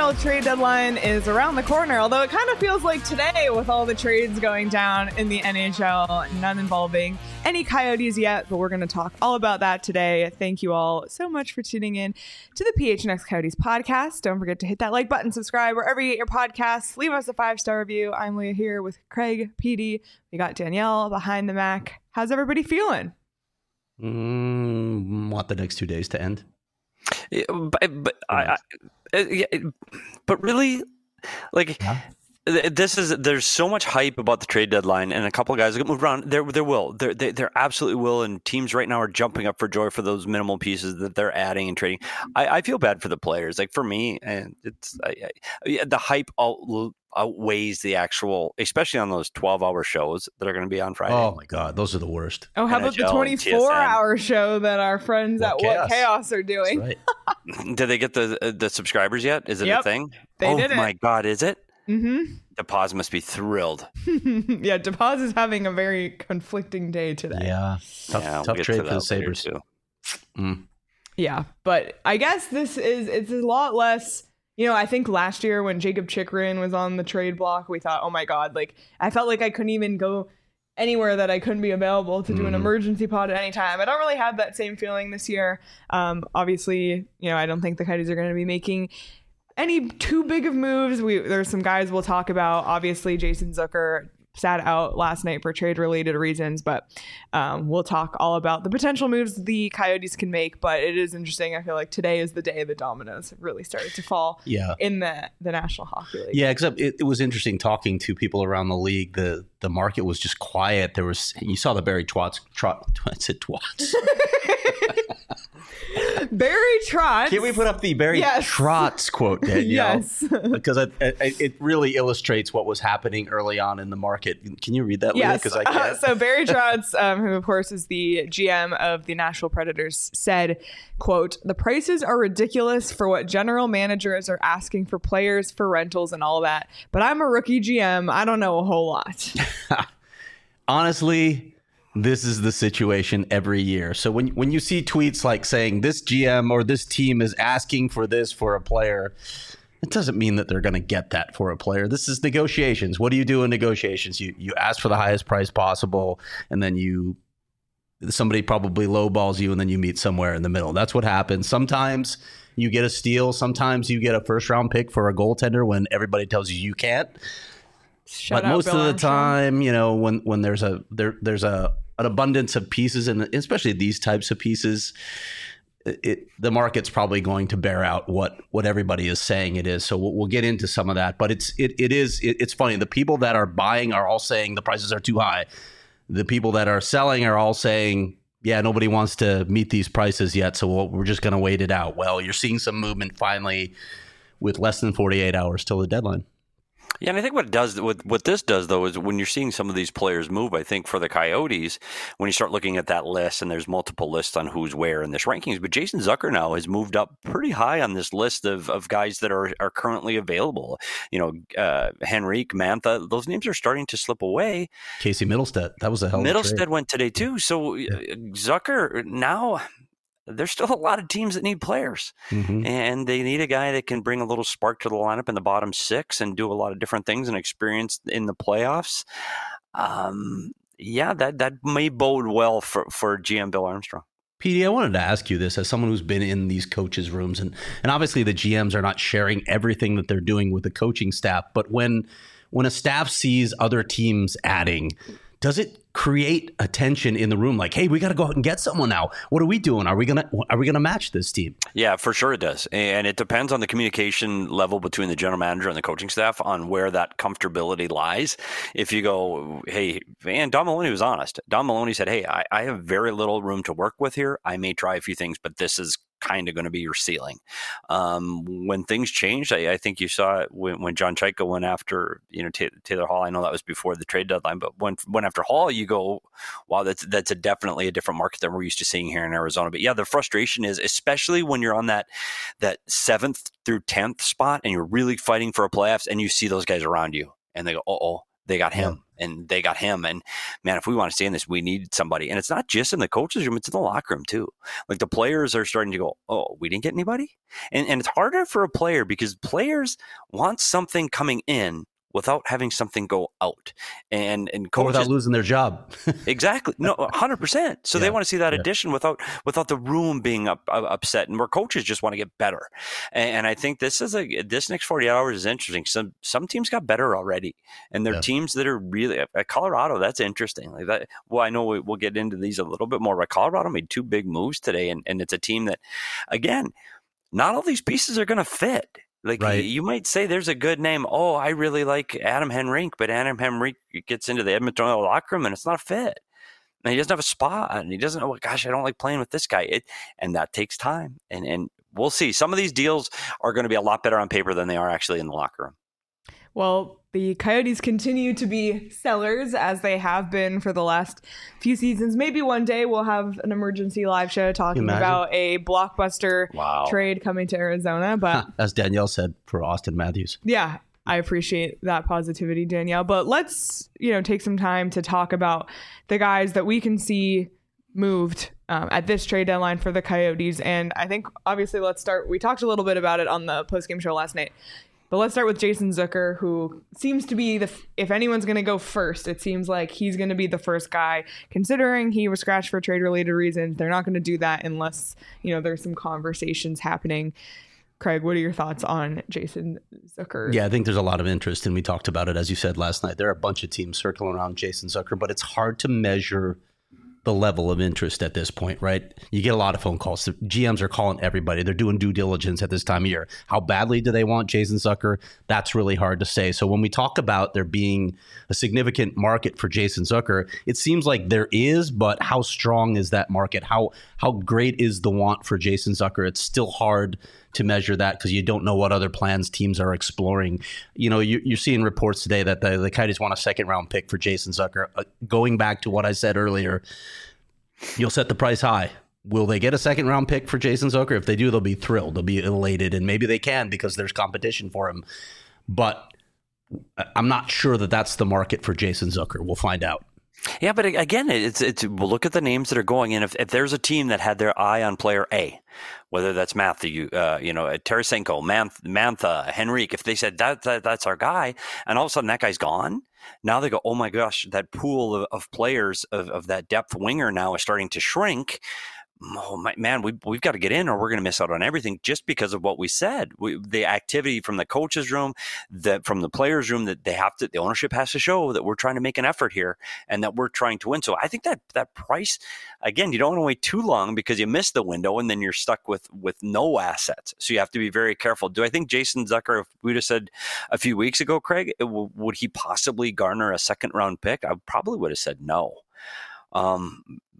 NHL trade deadline is around the corner, although it kind of feels like today with all the trades going down in the NHL, none involving any Coyotes yet, but we're going to talk all about that today. Thank you all so much for tuning in to the PHNX Coyotes podcast. Don't forget to hit that like button, subscribe wherever you get your podcasts, leave us a 5-star review. I'm Leah here with Craig, PD. We got Danielle behind the Mac. How's everybody feeling? Want the next 2 days to end? Yeah, but really, like, there's so much hype about the trade deadline, and a couple of guys get moved around. There absolutely will, and teams right now are jumping up for joy for those minimal pieces that they're adding and trading. I feel bad for the players. Like for me, and it's the hype outweighs the actual, especially on those 12-hour shows that are going to be on Friday. Oh my God, those are the worst. Oh, how about the 24-hour show that our friends at What Chaos are doing? Right. Did they get the subscribers yet? Is it a thing? They did it. Oh my God, is it? Mm-hmm. DePaz must be thrilled. Yeah, DePaz is having a very conflicting day today. Yeah, tough trade for the Sabres too. Yeah, but I guess it's a lot less. You know, I think last year when Jacob Chikrin was on the trade block, we thought, oh my God, like I felt like I couldn't even go anywhere that I couldn't be available to do an emergency pod at any time. I don't really have that same feeling this year. Obviously, you know, I don't think the Coyotes are going to be making any too big of moves. There's some guys we'll talk about. Obviously, Jason Zucker sat out last night for trade-related reasons, but we'll talk all about the potential moves the Coyotes can make. But it is interesting. I feel like today is the day the dominoes have really started to fall in the National Hockey League. Yeah, except it was interesting talking to people around the league. The market was just quiet. You saw the Barry Trotz. Barry Trotz. Can we put up the Barry Trotz quote, Danielle? Yes. Because it really illustrates what was happening early on in the market. Can you read that, Leah? Yes. Because I can't. So Barry Trotz, who of course is the GM of the Nashville Predators, said, quote, "The prices are ridiculous for what general managers are asking for players, for rentals and all that. But I'm a rookie GM. I don't know a whole lot." Honestly, this is the situation every year. So when you see tweets like saying this GM or this team is asking for this for a player, it doesn't mean that they're going to get that for a player. This is negotiations. What do you do in negotiations? You ask for the highest price possible, and then somebody probably lowballs you, and then you meet somewhere in the middle. That's what happens. Sometimes you get a steal. Sometimes you get a first-round pick for a goaltender when everybody tells you can't. But most of the time, you know, when there's an abundance of pieces, and especially these types of pieces, the market's probably going to bear out what everybody is saying it is. So we'll get into some of that. But it's funny. The people that are buying are all saying the prices are too high. The people that are selling are all saying, yeah, nobody wants to meet these prices yet, so we're just going to wait it out. Well, you're seeing some movement finally with less than 48 hours till the deadline. Yeah, and I think what this does, though, is when you're seeing some of these players move, I think for the Coyotes, when you start looking at that list, and there's multiple lists on who's where in this rankings, but Jason Zucker now has moved up pretty high on this list of guys that are currently available. You know, Henrique, Mantha, those names are starting to slip away. Casey Middlestead, that was a hell of a trade. Middlestead went today, too. So Zucker now... There's still a lot of teams that need players, and they need a guy that can bring a little spark to the lineup in the bottom six and do a lot of different things and experience in the playoffs. That may bode well for GM Bill Armstrong. PD, I wanted to ask you this as someone who's been in these coaches' rooms, and obviously the GMs are not sharing everything that they're doing with the coaching staff, but when a staff sees other teams adding, does it create a tension in the room? Like, hey, we got to go out and get someone now. What are we doing? Are we gonna match this team? Yeah, for sure it does, and it depends on the communication level between the general manager and the coaching staff on where that comfortability lies. If you go, hey, and Don Maloney was honest. Don Maloney said, hey, I have very little room to work with here. I may try a few things, but this is kind of going to be your ceiling. When things changed, I think you saw it when John Chaika went after Taylor Hall. I know that was before the trade deadline, but when after Hall, you go, wow, that's definitely a different market than we're used to seeing here in Arizona. But yeah, the frustration is, especially when you're on that 7th through 10th spot and you're really fighting for a playoffs, and you see those guys around you, and they go, They got him. And they got him. And man, if we want to stay in this, we need somebody. And it's not just in the coach's room, it's in the locker room too. Like the players are starting to go, oh, we didn't get anybody? And it's harder for a player because players want something coming in without having something go out. And coaches, or without losing their job. Exactly. No, 100%. So they want to see that addition without the room being upset, and where coaches just want to get better. And I think this next 48 hours is interesting. Some teams got better already, and they're teams that are really at Colorado. That's interesting. Like that. Well, I know we'll get into these a little bit more, but Colorado made 2 big moves today, and it's a team that, again, not all these pieces are going to fit. Like you might say there's a good name. Oh, I really like Adam Henrique, but Adam Henrique gets into the Edmonton Oil locker room and it's not a fit. And he doesn't have a spot, and he doesn't know, gosh, I don't like playing with this guy. And that takes time. And we'll see. Some of these deals are going to be a lot better on paper than they are actually in the locker room. Well, the Coyotes continue to be sellers, as they have been for the last few seasons. Maybe one day we'll have an emergency live show talking about a blockbuster trade coming to Arizona. But as Danielle said, for Austin Matthews. Yeah, I appreciate that positivity, Danielle. But let's take some time to talk about the guys that we can see moved at this trade deadline for the Coyotes. And I think, obviously, let's start. We talked a little bit about it on the postgame show last night. But let's start with Jason Zucker, who seems to be if anyone's going to go first, it seems like he's going to be the first guy, considering he was scratched for trade-related reasons. They're not going to do that unless, there's some conversations happening. Craig, what are your thoughts on Jason Zucker? Yeah, I think there's a lot of interest, and we talked about it, as you said last night. There are a bunch of teams circling around Jason Zucker, but it's hard to measure the level of interest at this point, right? You get a lot of phone calls. The GMs are calling everybody. They're doing due diligence at this time of year. How badly do they want Jason Zucker? That's really hard to say. So when we talk about there being a significant market for Jason Zucker, it seems like there is, but how strong is that market? How great is the want for Jason Zucker? It's still hard to measure that because you don't know what other plans teams are exploring. You're seeing reports today that the Coyotes want a 2nd-round pick for Jason Zucker. Going back to what I said earlier, you'll set the price high. Will they get a 2nd-round pick for Jason Zucker? If they do, they'll be thrilled. They'll be elated, and maybe they can because there's competition for him. But I'm not sure that that's the market for Jason Zucker. We'll find out. Yeah, but again, we'll look at the names that are going in. If there's a team that had their eye on player A, whether that's Matthew, Tarasenko, Mantha, Henrique, if they said that's our guy, and all of a sudden that guy's gone, now they go, oh my gosh, that pool of players of that depth winger now is starting to shrink. Oh my man, we've got to get in, or we're going to miss out on everything just because of what we said. The activity from the coach's room, from the players' room, that the ownership has to show that we're trying to make an effort here and that we're trying to win. So I think that price, again, you don't want to wait too long because you miss the window and then you're stuck with no assets. So you have to be very careful. Do I think Jason Zucker, if we'd have said a few weeks ago, Craig, would he possibly garner a 2nd-round pick? I probably would have said no. I'm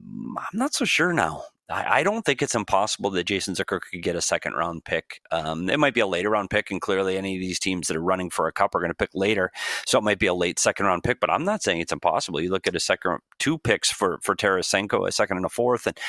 not so sure now. I don't think it's impossible that Jason Zucker could get a 2nd-round pick. It might be a later round pick, and clearly any of these teams that are running for a cup are going to pick later. So it might be a late 2nd-round pick, but I'm not saying it's impossible. You look at two picks for Tarasenko, a 2nd and a 4th, and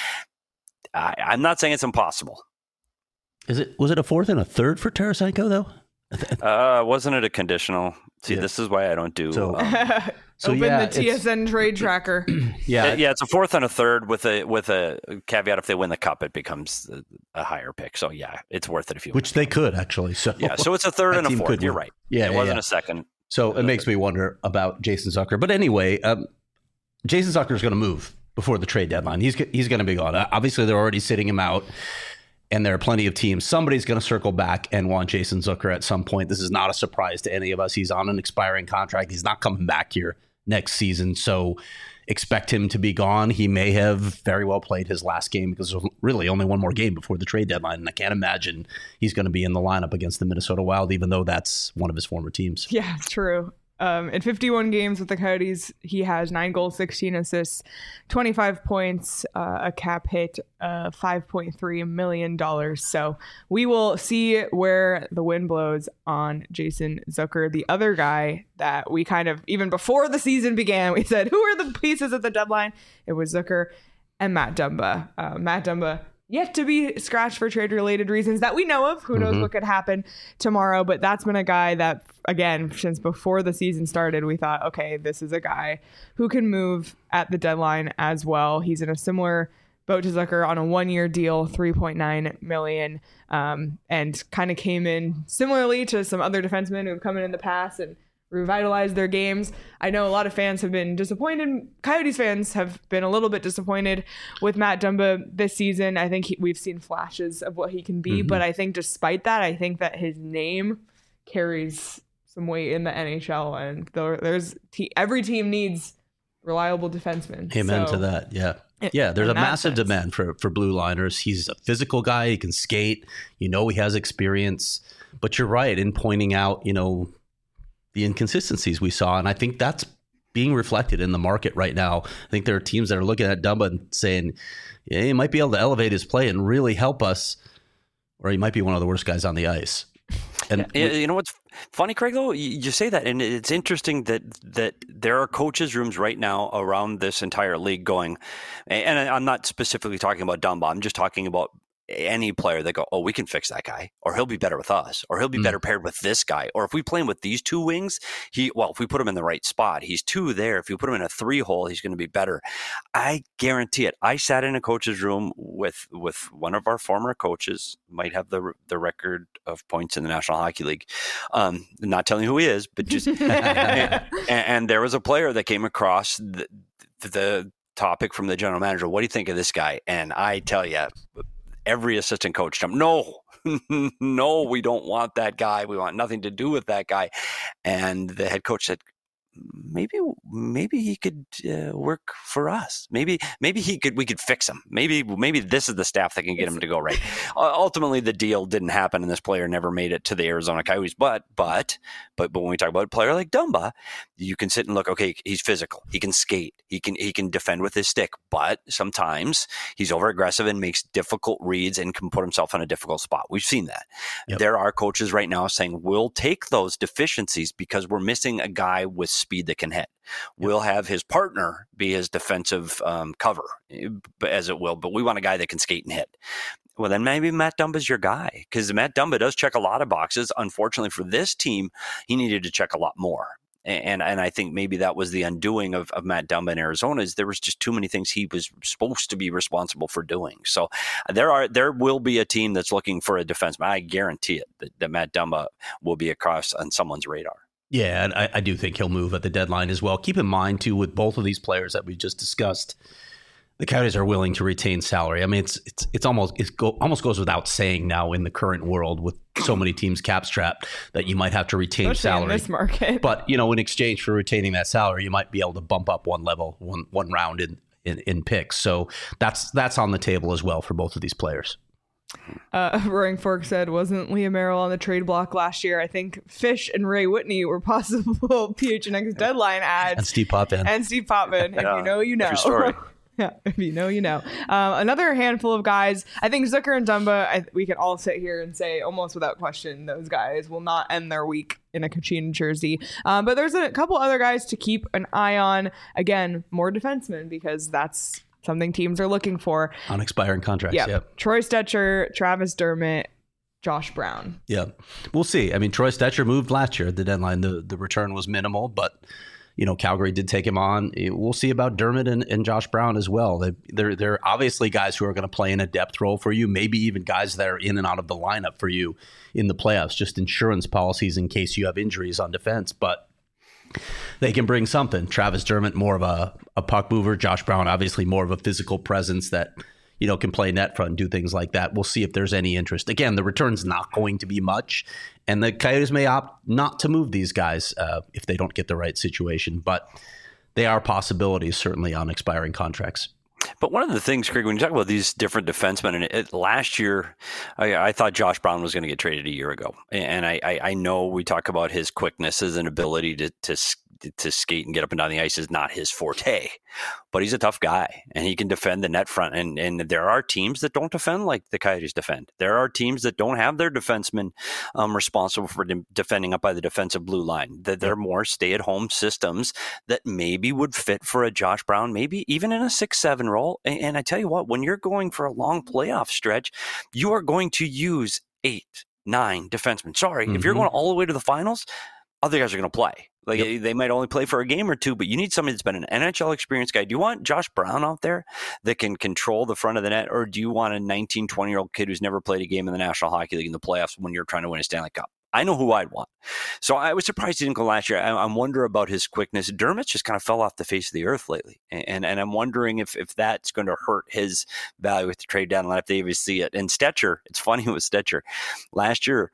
I'm not saying it's impossible. Was it a 4th and a 3rd for Tarasenko, though? Wasn't it a conditional? See, this is why I don't do. So open the TSN trade tracker. Yeah, it's a 4th and a 3rd with a caveat. If they win the cup, it becomes a higher pick. So yeah, it's worth it if you. Which they could actually. So so it's a 3rd and a 4th. You're right. Yeah, it wasn't a 2nd. So it makes me wonder about Jason Zucker. But anyway, Jason Zucker is going to move before the trade deadline. He's going to be gone. Obviously, they're already sitting him out. And there are plenty of teams. Somebody's going to circle back and want Jason Zucker at some point. This is not a surprise to any of us. He's on an expiring contract. He's not coming back here next season. So expect him to be gone. He may have very well played his last game because there's really only one more game before the trade deadline. And I can't imagine he's going to be in the lineup against the Minnesota Wild, even though that's one of his former teams. Yeah, it's true. In 51 games with the Coyotes, he has 9 goals, 16 assists, 25 points, a cap hit, $5.3 million. So we will see where the wind blows on Jason Zucker. The other guy that we kind of, even before the season began, we said, who are the pieces at the deadline? It was Zucker and Matt Dumba. Matt Dumba yet to be scratched for trade-related reasons that we know of. Who knows what could happen tomorrow? But that's been a guy that, again, since before the season started, we thought, okay, this is a guy who can move at the deadline as well. He's in a similar boat to Zucker on a 1-year deal, $3.9 million, and kind of came in similarly to some other defensemen who have come in the past and revitalized their games. I know a lot of fans have been disappointed. Coyotes fans have been a little bit disappointed with Matt Dumba this season. I think we've seen flashes of what he can be, but I think despite that, I think that his name carries some weight in the NHL, and every team needs reliable defensemen. Amen to that. Yeah. Yeah, there's a massive demand for blue liners. He's a physical guy. He can skate. He has experience. But you're right in pointing out, the inconsistencies we saw. And I think that's being reflected in the market right now. I think there are teams that are looking at Dumba and saying, yeah, he might be able to elevate his play and really help us, or he might be one of the worst guys on the ice. And you know what's funny, Craig, though? You say that, and it's interesting that there are coaches' rooms right now around this entire league going, and I'm not specifically talking about Dumba, I'm just talking about any player that go, oh, we can fix that guy, or he'll be better with us, or he'll be better paired with this guy, or if we play him with these two wings, if we put him in the right spot, he's 2 there. If you put him in a 3-hole, he's going to be better. I guarantee it. I sat in a coach's room with one of our former coaches, might have the record of points in the National Hockey League. Not telling you who he is, but just and there was a player that came across the topic from the general manager. What do you think of this guy? And I tell you, every assistant coach told him, no, we don't want that guy. We want nothing to do with that guy. And the head coach said, maybe he could work for us. Maybe we could fix him. Maybe this is the staff that can get him to go right. Ultimately, the deal didn't happen, and this player never made it to the Arizona Coyotes. But when we talk about a player like Dumba, you can sit and look. Okay, he's physical. He can skate. He can defend with his stick. But sometimes he's over aggressive and makes difficult reads and can put himself in a difficult spot. We've seen that. Yep. There are coaches right now saying we'll take those deficiencies because we're missing a guy with speed that can hit. We'll have his partner be his defensive cover, as it will, but we want a guy that can skate and hit. Well, then maybe Matt Dumba's your guy, because Matt Dumba does check a lot of boxes. Unfortunately for this team, he needed to check a lot more. And I think maybe that was the undoing of Matt Dumba in Arizona, is there was just too many things he was supposed to be responsible for doing. So there will be a team that's looking for a defenseman. I guarantee it that Matt Dumba will be across on someone's radar. Yeah, and I do think he'll move at the deadline as well. Keep in mind, too, with both of these players that we just discussed, the Coyotes are willing to retain salary. I mean, it almost goes without saying now in the current world with so many teams cap strapped that you might have to retain salary in this market. But in exchange for retaining that salary, you might be able to bump up one level, one round in picks. So that's on the table as well for both of these players. Roaring Fork said, wasn't Liam Merrill on the trade block last year? I think Fish and Ray Whitney were possible PHNX deadline ads. And Steve Potvin. If you know, you know. True story. Yeah, if you know, you know. Another handful of guys. I think Zucker and Dumba, we can all sit here and say almost without question, those guys will not end their week in a Kachina jersey. But there's a couple other guys to keep an eye on. Again, more defensemen, because that's something teams are looking for. On expiring contracts, yep. Troy Stecher, Travis Dermott, Josh Brown. Yeah, we'll see. I mean, Troy Stecher moved last year at the deadline. The return was minimal, but Calgary did take him on. We'll see about Dermott and Josh Brown as well. They're obviously guys who are going to play in a depth role for you, maybe even guys that are in and out of the lineup for you in the playoffs, just insurance policies in case you have injuries on defense. But they can bring something. Travis Dermott, more of a puck mover. Josh Brown, obviously more of a physical presence that can play net front and do things like that. We'll see if there's any interest. Again, the return's not going to be much, and the Coyotes may opt not to move these guys if they don't get the right situation. But they are possibilities, certainly, on expiring contracts. But one of the things, Craig, when you talk about these different defensemen, and last year, I thought Josh Brown was going to get traded a year ago. And I know we talk about his quickness, his ability to to skate and get up and down the ice is not his forte, but he's a tough guy and he can defend the net front. And there are teams that don't defend like the Coyotes defend. There are teams that don't have their defensemen responsible for defending up by the defensive blue line. That they're more stay-at-home systems that maybe would fit for a Josh Brown, maybe even in a 6-7 role. And I tell you what, when you're going for a long playoff stretch, you are going to use 8, 9 defensemen. Sorry, if you're going all the way to the finals, other guys are going to play. Like they might only play for a game or two, but you need somebody that's been an NHL experienced guy. Do you want Josh Brown out there that can control the front of the net, or do you want a 19, 20-year-old kid who's never played a game in the National Hockey League in the playoffs when you're trying to win a Stanley Cup? I know who I'd want. So I was surprised he didn't go last year. I'm wondering about his quickness. Dermott just kind of fell off the face of the earth lately. And I'm wondering if that's going to hurt his value with the trade deadline, if they even see it. And Stecher, it's funny with Stecher. Last year,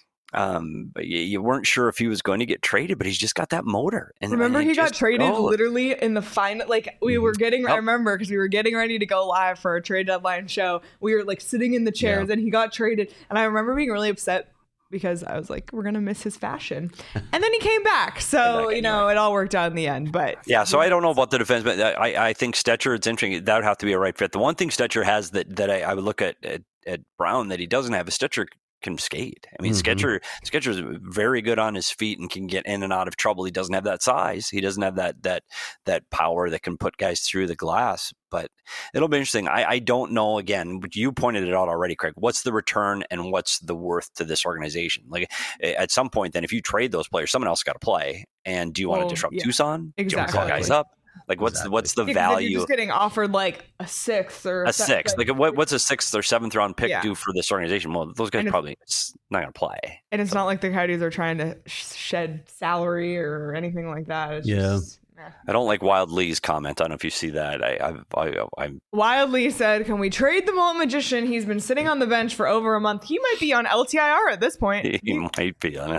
you weren't sure if he was going to get traded, but he's just got that motor. And remember, he got traded literally in the final. Like we were getting, I remember because we were getting ready to go live for a trade deadline show. We were like sitting in the chairs, and he got traded. And I remember being really upset because I was like, we're gonna miss his fashion. And then he came back, so it all worked out in the end. But yeah, so I don't know about the defense, but I think Stecher, it's interesting. That would have to be a right fit. The one thing Stecher has that I would look at Brown that he doesn't have is Stecher can skate. I mean, Stecher is very good on his feet and can get in and out of trouble. He doesn't have that size. He doesn't have that power that can put guys through the glass. But it'll be interesting. I don't know, again, but you pointed it out already, Craig. What's the return and what's the worth to this organization? Like at some point, then if you trade those players, someone else got to play. And do you want to disrupt Tucson? Exactly. Do you want to call guys up? Like what's the value? You're just getting offered like a 6th or a 6th. Like what's a 6th or 7th round pick do for this organization? Well, those guys probably not going to play. And it's not like the Coyotes are trying to shed salary or anything like that. It's just, I don't like Wild Lee's comment. I don't know if you see that. I'm Wild Lee said, "Can we trade the Mullet Magician? He's been sitting on the bench for over a month. He might be on LTIR at this point. He might be on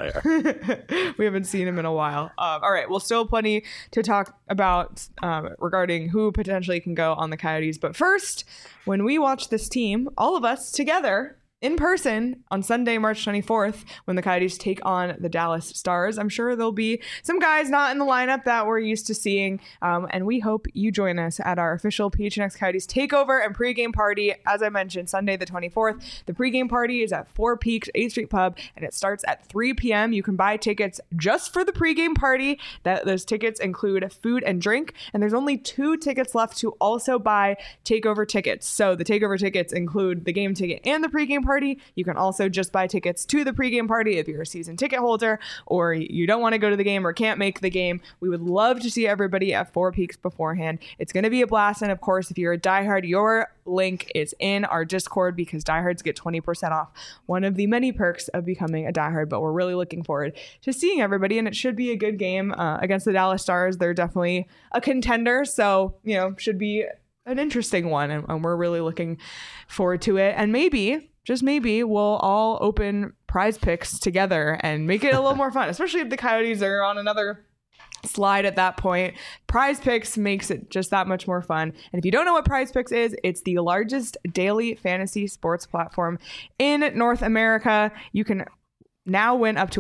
LTIR. We haven't seen him in a while. All right, well, still plenty to talk about regarding who potentially can go on the Coyotes. But first, when we watch this team, all of us together in person on Sunday, March 24th, when the Coyotes take on the Dallas Stars. I'm sure there'll be some guys not in the lineup that we're used to seeing, and we hope you join us at our official PHNX Coyotes takeover and pregame party. As I mentioned, Sunday the 24th. The pregame party is at Four Peaks 8th Street Pub, and it starts at 3 p.m. You can buy tickets just for the pregame party. Those tickets include food and drink, and there's only 2 tickets left to also buy takeover tickets. So the takeover tickets include the game ticket and the pregame party. You can also just buy tickets to the pregame party if you're a season ticket holder or you don't want to go to the game or can't make the game. We would love to see everybody at Four Peaks beforehand. It's going to be a blast. And of course, if you're a diehard, your link is in our Discord because diehards get 20% off. One of the many perks of becoming a diehard, but we're really looking forward to seeing everybody. And it should be a good game against the Dallas Stars. They're definitely a contender. So, should be an interesting one. And we're really looking forward to it. And maybe, just maybe, we'll all open Prize Picks together and make it a little more fun, especially if the Coyotes are on another slide at that point. Prize Picks makes it just that much more fun. And if you don't know what Prize Picks is, it's the largest daily fantasy sports platform in North America. You can now win up to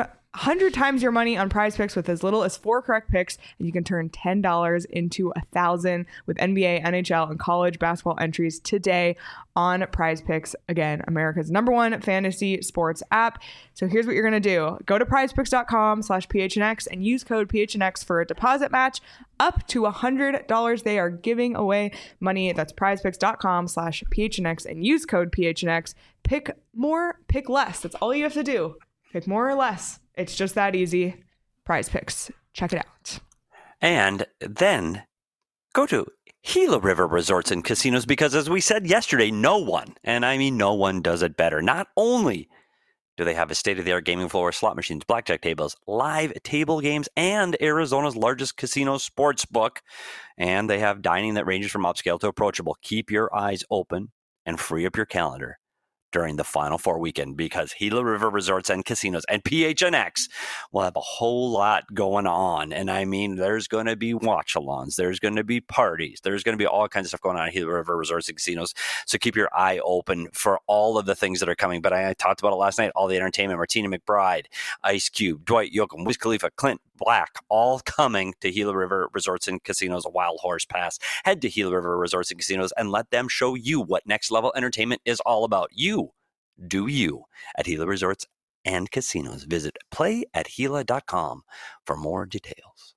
100 times your money on Prize Picks with as little as 4 correct picks, and you can turn $10 into $1,000 with NBA, NHL, and college basketball entries today on Prize Picks. Again, America's #1 fantasy sports app. So here's what you're going to do. Go to prizepicks.com/PHNX and use code PHNX for a deposit match up to $100. They are giving away money. That's prizepicks.com/PHNX and use code PHNX. Pick more, pick less. That's all you have to do. Pick more or less. It's just that easy. Prize Picks. Check it out. And then go to Gila River Resorts and Casinos because, as we said yesterday, no one, and I mean no one, does it better. Not only do they have a state-of-the-art gaming floor, slot machines, blackjack tables, live table games, and Arizona's largest casino sports book, and they have dining that ranges from upscale to approachable. Keep your eyes open and free up your calendar during the Final Four weekend because Gila River Resorts and Casinos and PHNX will have a whole lot going on. And I mean, there's going to be watch-alongs, there's going to be parties, there's going to be all kinds of stuff going on at Gila River Resorts and Casinos. So keep your eye open for all of the things that are coming. But I talked about it last night, all the entertainment, Martina McBride, Ice Cube, Dwight Yoakam, Wiz Khalifa, Clint Black, all coming to Gila River Resorts and Casinos, a Wild Horse Pass. Head to Gila River Resorts and Casinos and let them show you what next level entertainment is all about. You do you at Gila Resorts and Casinos. Visit playathila.com for more details.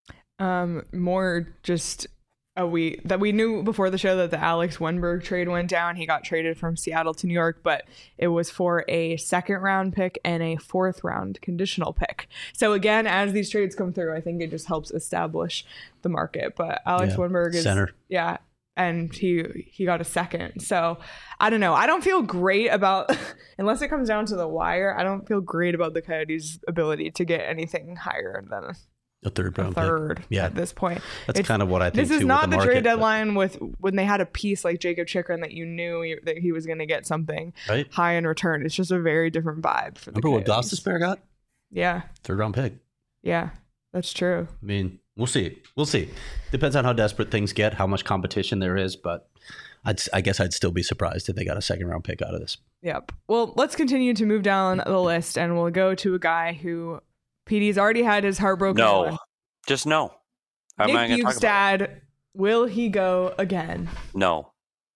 More just we knew before the show that the Alex Wenberg trade went down. He got traded from Seattle to New York, but it was for a 2nd round pick and a 4th round conditional pick. So again, as these trades come through, I think it just helps establish the market. But Alex Wenberg is center. Yeah. And he got a 2nd. So I don't know. I don't feel great about, unless it comes down to the wire, I don't feel great about the Coyotes' ability to get anything higher than a 3rd round pick at this point. That's kind of what I think. This is too, not with the trade market, deadline when they had a piece like Jacob Chychrun that you knew that he was going to get something high in return. It's just a very different vibe for the Remember what Coyotes. Gostisbehere got? Yeah. 3rd round pick. Yeah, that's true. I mean, we'll see. Depends on how desperate things get, how much competition there is, but I guess I'd still be surprised if they got a 2nd round pick out of this. Yep. Well, let's continue to move down the list, and we'll go to a guy who PD's already had his heartbroken. No. Just no. Nick Bjugstad, will he go again? No.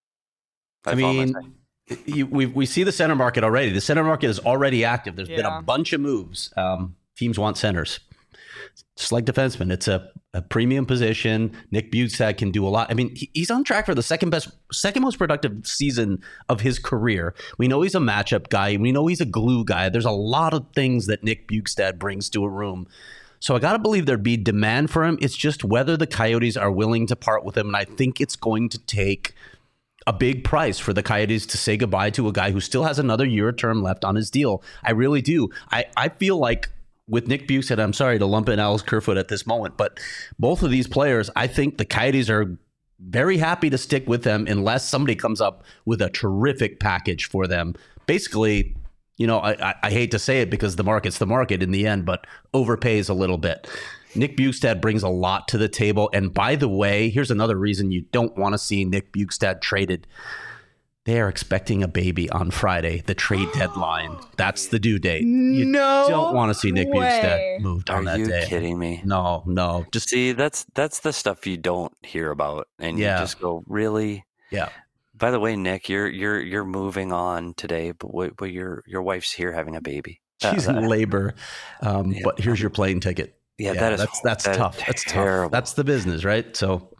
I mean, we see the center market already. The center market is already active. There's been a bunch of moves. Teams want centers. Just like defensemen, it's a premium position. Nick Bjugstad can do a lot. I mean, he's on track for the second most productive season of his career. We know he's a matchup guy. We know he's a glue guy. There's a lot of things that Nick Bjugstad brings to a room. So I got to believe there'd be demand for him. It's just whether the Coyotes are willing to part with him. And I think it's going to take a big price for the Coyotes to say goodbye to a guy who still has another year term left on his deal. I really do. I feel like with Nick Bjugstad, I'm sorry to lump in Alex Kerfoot at this moment, but both of these players, I think the Coyotes are very happy to stick with them unless somebody comes up with a terrific package for them. Basically, you know, I hate to say it because the market's the market in the end, but overpays a little bit. Nick Bjugstad brings a lot to the table. And by the way, here's another reason you don't want to see Nick Bjugstad traded. They are expecting a baby on Friday, the trade deadline. That's the due date. You don't want to see Nick Bjugstad moved on that day. Are you kidding me? No. Just see, that's the stuff you don't hear about. And you just go, really? Yeah. By the way, Nick, you're moving on today, but your wife's here having a baby. She's in labor, but here's your plane ticket. Yeah, that's tough. That's terrible. That's the business, right? So,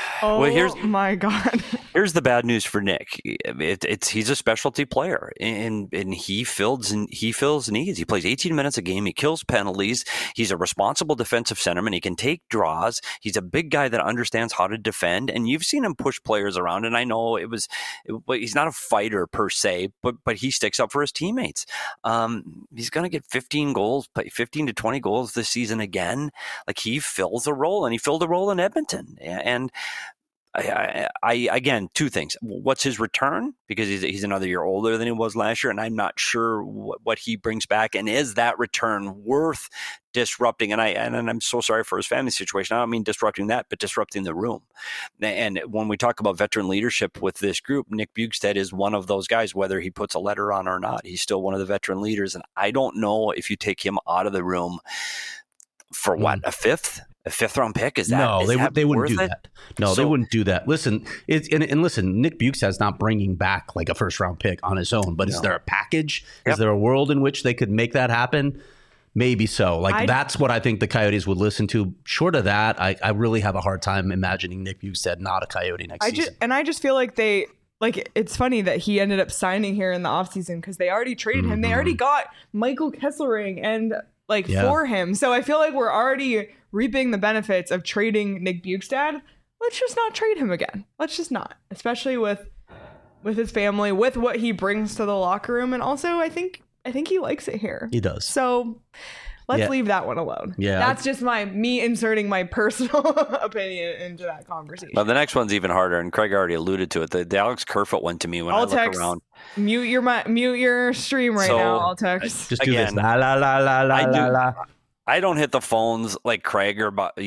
my God. Here's the bad news for Nick. He's a specialty player, and he fills needs. He plays 18 minutes a game. He kills penalties. He's a responsible defensive centerman. He can take draws. He's a big guy that understands how to defend. And you've seen him push players around. And I know he's not a fighter per se, but he sticks up for his teammates. He's going to get 15 to 20 goals this season again. Like, he fills a role, and he filled a role in Edmonton. And I again, two things. What's his return? Because he's another year older than he was last year, and I'm not sure what he brings back. And is that return worth disrupting? And I'm so sorry for his family situation. I don't mean disrupting that, but disrupting the room. And when we talk about veteran leadership with this group, Nick Bjugstad is one of those guys. Whether he puts a letter on or not, he's still one of the veteran leaders. And I don't know if you take him out of the room for a fifth round pick. Is that no? They wouldn't do it? that. No, they wouldn't do that. Listen, listen. Nick Bjugstad's not bringing back like a first round pick on his own. But is there a package? Yep. Is there a world in which they could make that happen? Maybe so. That's what I think the Coyotes would listen to. Short of that, I really have a hard time imagining Nick Bjugstad not a Coyote next season. I just feel like it's funny that he ended up signing here in the offseason because they already traded him. They already got Michael Kesselring and for him. So I feel like we're already reaping the benefits of trading Nick Bjugstad. Let's just not trade him again. Let's just not, especially with his family, with what he brings to the locker room. And also I think he likes it here. He does. So let's leave that one alone. Yeah. That's just me inserting my personal opinion into that conversation. Well, the next one's even harder, and Craig already alluded to it. The Alex Kerfoot one to me when I look around. Mute your stream right now, Altex. Just do this. La la la la la la. I don't hit the phones like Craig or the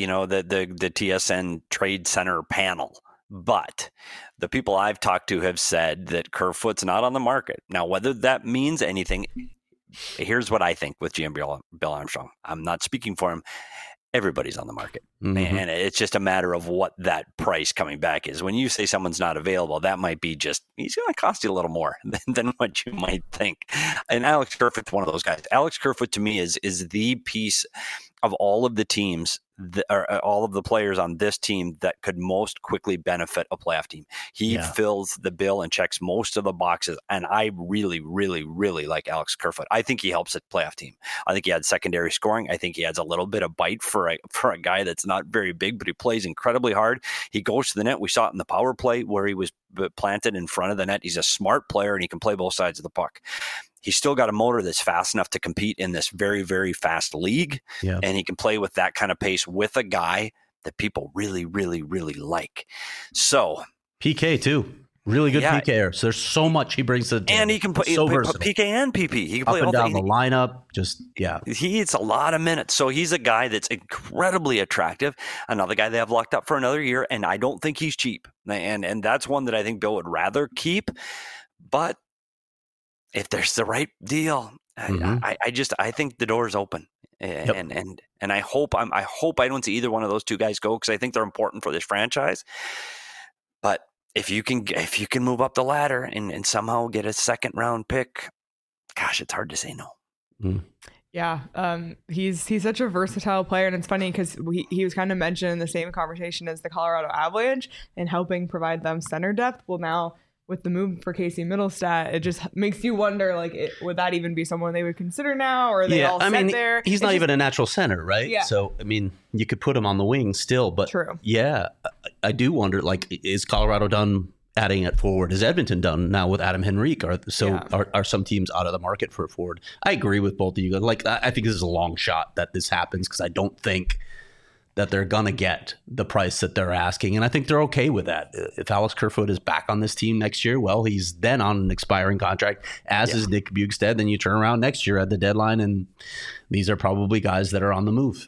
TSN Trade Center panel. But the people I've talked to have said that Kerfoot's not on the market. Now, whether that means anything, here's what I think with GM Bill Armstrong. I'm not speaking for him. everybody's on the market. Mm-hmm. And it's just a matter of what that price coming back is. When you say someone's not available, that might be just, he's going to cost you a little more than what you might think. And Alex Kerfoot's one of those guys. Alex Kerfoot to me is the piece of all of the teams or all of the players on this team that could most quickly benefit a playoff team. He fills the bill and checks most of the boxes. And I really, really, really like Alex Kerfoot. I think he helps a playoff team. I think he adds secondary scoring. I think he adds a little bit of bite for a guy that's not very big, but he plays incredibly hard. He goes to the net. We saw it in the power play where he was planted in front of the net. He's a smart player and he can play both sides of the puck. He's still got a motor that's fast enough to compete in this very, very fast league. Yeah. And he can play with that kind of pace with a guy that people really, really, really like. So PK too. Really good PKer. So there's so much he brings to the team. And he can play PK and PP. He can play up and down the lineup. He eats a lot of minutes. So he's a guy that's incredibly attractive. Another guy they have locked up for another year. And I don't think he's cheap. And that's one that I think Bill would rather keep. But if there's the right deal, I think the door is open, and I hope I don't see either one of those two guys go because I think they're important for this franchise. But if you can move up the ladder and somehow get a second round pick, gosh, it's hard to say no. Mm. Yeah, he's such a versatile player, and it's funny because he was kind of mentioned in the same conversation as the Colorado Avalanche and helping provide them center depth. Well, now with the move for Casey Middlestat, it just makes you wonder, like, would that even be someone they would consider now, or are they all set there? He's not even a natural center, right? Yeah. So, I mean, you could put him on the wing still, but true. Yeah, I do wonder, like, is Colorado done adding at forward? Is Edmonton done now with Adam Henrique? Are some teams out of the market for a forward? I agree with both of you. Like, I think this is a long shot that this happens because I don't think that they're going to get the price that they're asking. And I think they're okay with that. If Alex Kerfoot is back on this team next year, well, he's then on an expiring contract, as is Nick Bjugstad. Then you turn around next year at the deadline, and these are probably guys that are on the move.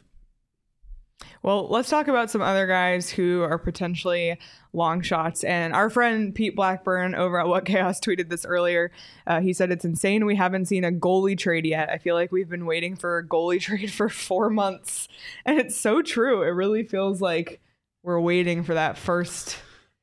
Well, let's talk about some other guys who are potentially long shots. And our friend Pete Blackburn over at What Chaos tweeted this earlier. He said, it's insane we haven't seen a goalie trade yet. I feel like we've been waiting for a goalie trade for 4 months. And it's so true. It really feels like we're waiting for that first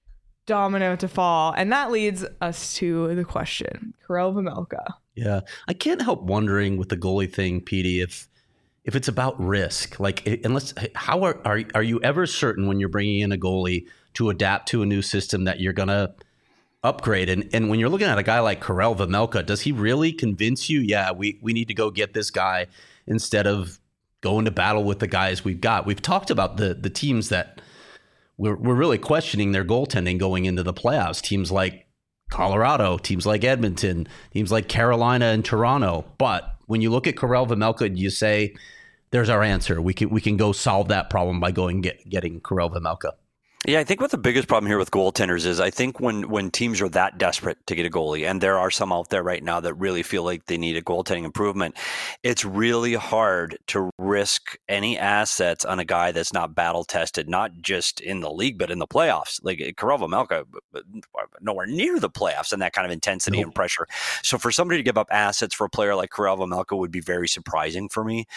domino to fall. And that leads us to the question, Karel Vejmelka. Yeah, I can't help wondering with the goalie thing, Petey, if it's about risk, like, how are you ever certain when you're bringing in a goalie to adapt to a new system that you're going to upgrade? And when you're looking at a guy like Karel Vejmelka, does he really convince you, we need to go get this guy instead of going to battle with the guys we've got? We've talked about the teams that we're really questioning their goaltending going into the playoffs. Teams like Colorado, teams like Edmonton, teams like Carolina and Toronto. But when you look at Karel Vejmelka, you say, there's our answer. We can go solve that problem by going getting Karel Vejmelka. Yeah, I think what the biggest problem here with goaltenders is I think when teams are that desperate to get a goalie, and there are some out there right now that really feel like they need a goaltending improvement, it's really hard to risk any assets on a guy that's not battle tested, not just in the league, but in the playoffs. Like Karel Vejmelka, nowhere near the playoffs and that kind of intensity and pressure. So for somebody to give up assets for a player like Karel Vejmelka would be very surprising for me.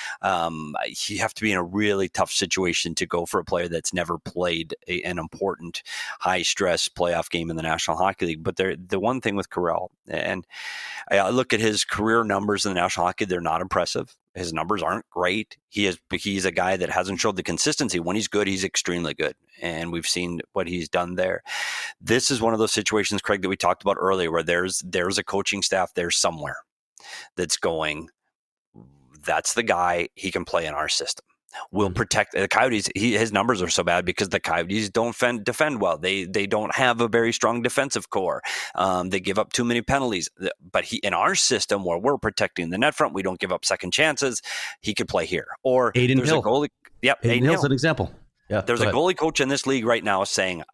You have to be in a really tough situation to go for a player that's never played an important high-stress playoff game in the National Hockey League. But the one thing with Karel, and I look at his career numbers in the National Hockey, they're not impressive. His numbers aren't great. He's a guy that hasn't showed the consistency. When he's good, he's extremely good. And we've seen what he's done there. This is one of those situations, Craig, that we talked about earlier, where there's a coaching staff there somewhere that's going, that's the guy, he can play in our system. Will protect the Coyotes. His numbers are so bad because the Coyotes don't defend well. They don't have a very strong defensive core. They give up too many penalties. But in our system where we're protecting the net front, we don't give up second chances. He could play here. Or Adin there's Hill. A goalie. Yep, Adin Hill's an example. Yeah, there's a goalie coach in this league right now saying,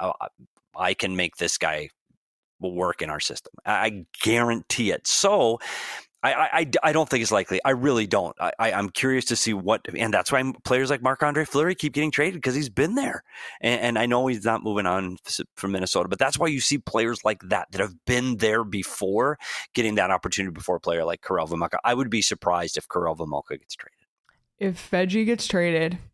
I can make this guy work in our system. I guarantee it. So I don't think it's likely. I really don't. I'm curious to see and that's why players like Marc-Andre Fleury keep getting traded because he's been there. And I know he's not moving on from Minnesota, but that's why you see players like that have been there before getting that opportunity before a player like Karel Vejmelka. I would be surprised if Karel Vejmelka gets traded. If Veggie gets traded,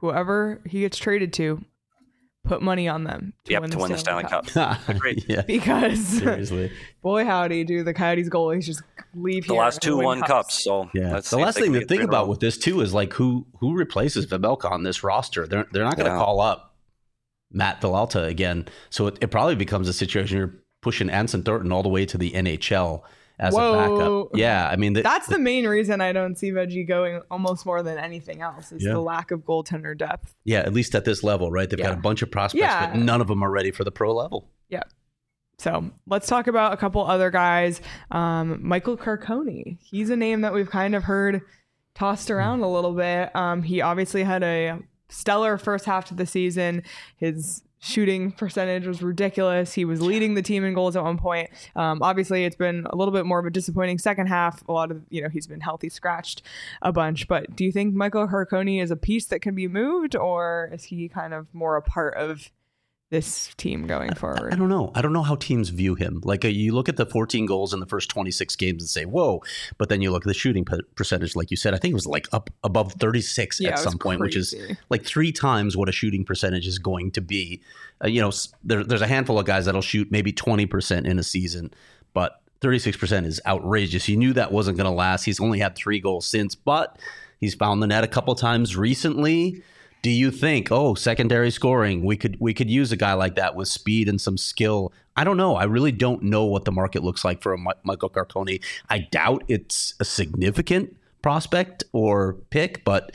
whoever he gets traded to, put money on them to win the Stanley Cup. Great. Yeah. Because seriously, boy howdy, do the Coyotes goalies just leave the here last 2 won cups. So yeah, the last thing to think about with this too is like who replaces Vejmelka on this roster. They're not going to call up Matt Villalta again, so it probably becomes a situation you're pushing Anson Thornton all the way to the NHL as a backup. Yeah, I mean that's the main reason I don't see Veggie going almost more than anything else is the lack of goaltender depth. Yeah, at least at this level, right? They've got a bunch of prospects, but none of them are ready for the pro level. Yeah. So let's talk about a couple other guys. Michael Carcone. He's a name that we've kind of heard tossed around a little bit. He obviously had a stellar first half to the season. His shooting percentage was ridiculous. He was leading the team in goals at one point. Obviously, it's been a little bit more of a disappointing second half. A lot of, he's been healthy scratched a bunch. But do you think Michael Carcone is a piece that can be moved, or is he kind of more a part of this team going forward? I don't know. I don't know how teams view him. Like you look at the 14 goals in the first 26 games and say, whoa. But then you look at the shooting percentage, like you said, I think it was like up above 36 at some point, which is like 3 times what a shooting percentage is going to be. There's a handful of guys that'll shoot maybe 20% in a season, but 36% is outrageous. You knew that wasn't going to last. He's only had 3 goals since, but he's found the net a couple times recently. Do you think, secondary scoring, we could use a guy like that with speed and some skill? I don't know. I really don't know what the market looks like for a Michael Carcone. I doubt it's a significant prospect or pick, but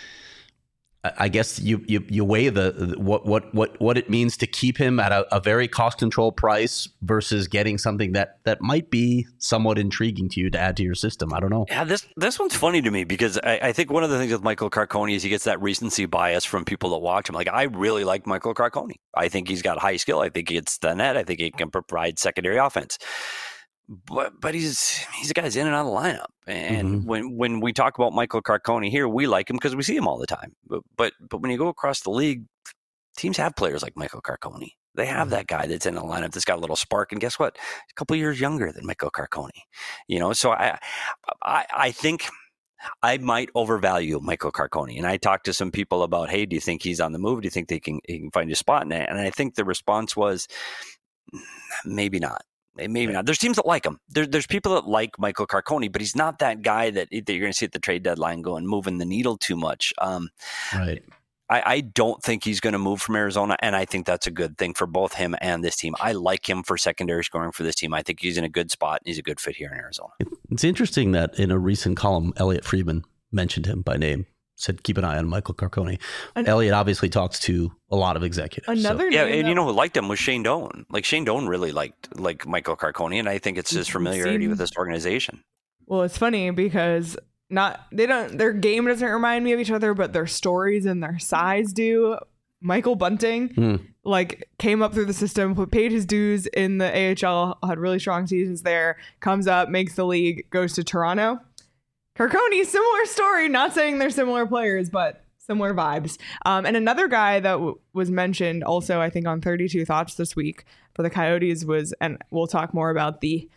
I guess you weigh what it means to keep him at a very cost control price versus getting something that might be somewhat intriguing to you to add to your system. I don't know. Yeah, this one's funny to me because I think one of the things with Michael Carcone is he gets that recency bias from people that watch him. Like, I really like Michael Carcone. I think he's got high skill. I think he gets the net. I think he can provide secondary offense. But he's a guy who's in and out of the lineup. And when we talk about Michael Carcone here, we like him because we see him all the time. But when you go across the league, teams have players like Michael Carcone. They have that guy that's in the lineup that's got a little spark. And guess what? A couple of years younger than Michael Carcone. So I think I might overvalue Michael Carcone. And I talked to some people about, hey, do you think he's on the move? Do you think he can find a spot in it? And I think the response was maybe not. Maybe not. There's teams that like him. There's people that like Michael Carcone, but he's not that guy that you're going to see at the trade deadline going moving the needle too much. Right. I don't think he's going to move from Arizona, and I think that's a good thing for both him and this team. I like him for secondary scoring for this team. I think he's in a good spot, and he's a good fit here in Arizona. It's interesting that in a recent column, Elliot Friedman mentioned him by name. Said keep an eye on Michael Carcone. Elliot obviously talks to a lot of executives. And who liked him was Shane Doan. Like Shane Doan really liked Michael Carcone, and I think it's his familiarity with this organization. Well, it's funny because their game doesn't remind me of each other, but their stories and their size do. Michael Bunting came up through the system, paid his dues in the AHL, had really strong seasons there, comes up, makes the league, goes to Toronto. Carcone, similar story. Not saying they're similar players, but similar vibes. And another guy that was mentioned also, I think, on 32 Thoughts this week for the Coyotes was, and we'll talk more about the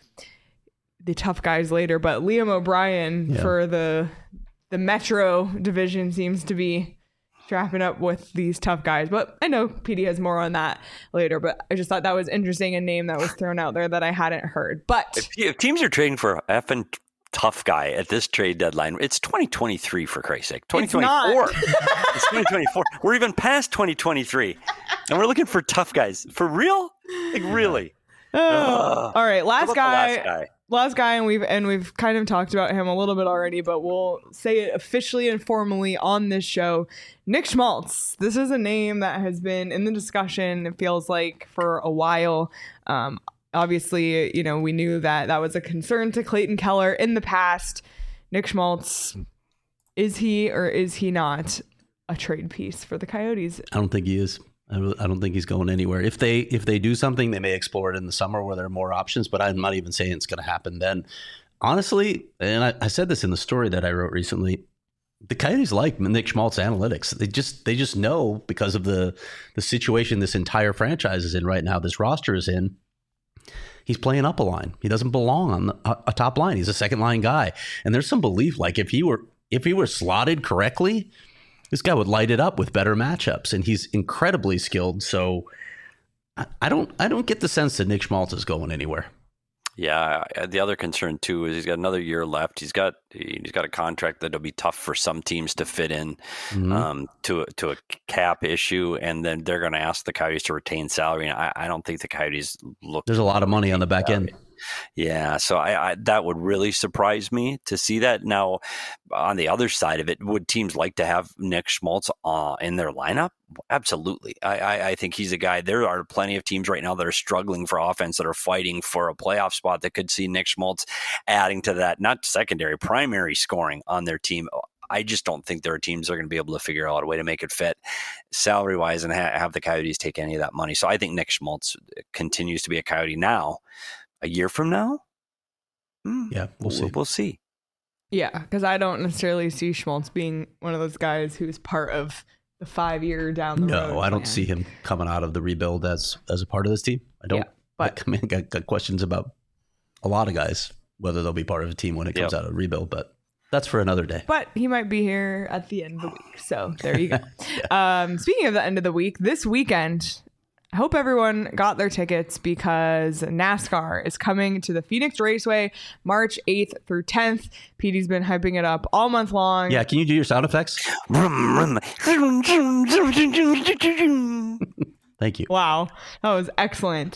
tough guys later, but Liam O'Brien for the Metro division seems to be strapping up with these tough guys. But I know PD has more on that later, but I just thought that was interesting, a name that was thrown out there that I hadn't heard. But if teams are trading for effing tough guy at this trade deadline, it's 2023 for Christ's sake. 2024. It's 2024. We're even past 2023, and we're looking for tough guys for real. Like really. All right, last guy, and we've kind of talked about him a little bit already, but we'll say it officially and formally on this show. Nick Schmaltz. This is a name that has been in the discussion. It feels like for a while. Obviously, we knew that was a concern to Clayton Keller in the past. Nick Schmaltz, is he or is he not a trade piece for the Coyotes? I don't think he is. I don't think he's going anywhere. If they do something, they may explore it in the summer where there are more options, but I'm not even saying it's going to happen then. Honestly, and I said this in the story that I wrote recently, the Coyotes like Nick Schmaltz analytics. They just know because of the situation this entire franchise is in right now, this roster is in. He's playing up a line. He doesn't belong on a top line. He's a second line guy. And there's some belief, like if he were slotted correctly, This guy would light it up with better matchups, and he's incredibly skilled. So I don't get the sense that Nick Schmaltz is going anywhere. Yeah, the other concern too is he's got another year left. He's got a contract that'll be tough for some teams to fit in to a cap issue, and then they're going to ask the Coyotes to retain salary. And I don't think the Coyotes look. There's a lot of money on the back end. Yeah, so I that would really surprise me to see that. Now, on the other side of it, would teams like to have Nick Schmaltz in their lineup? Absolutely. I think he's a guy. There are plenty of teams right now that are struggling for offense, that are fighting for a playoff spot, that could see Nick Schmaltz adding to that, not secondary, primary scoring on their team. I just don't think there are teams that are going to be able to figure out a way to make it fit salary-wise and have the Coyotes take any of that money. So I think Nick Schmaltz continues to be a Coyote now. A year from now? Yeah, we'll see. We'll see. Yeah, because I don't necessarily see Schmaltz being one of those guys who's part of the 5 year down the road. No, I don't see him coming out of the rebuild as a part of this team. I don't. Yeah, but I got questions about a lot of guys, whether they'll be part of a team when it comes out of rebuild, but that's for another day. But he might be here at the end of the week. So there you go. Speaking of the end of the week, this weekend, I hope everyone got their tickets because NASCAR is coming to the Phoenix Raceway March 8th through 10th. Petey's been hyping it up all month long. Yeah, can you do your sound effects? Thank you. Wow, that was excellent.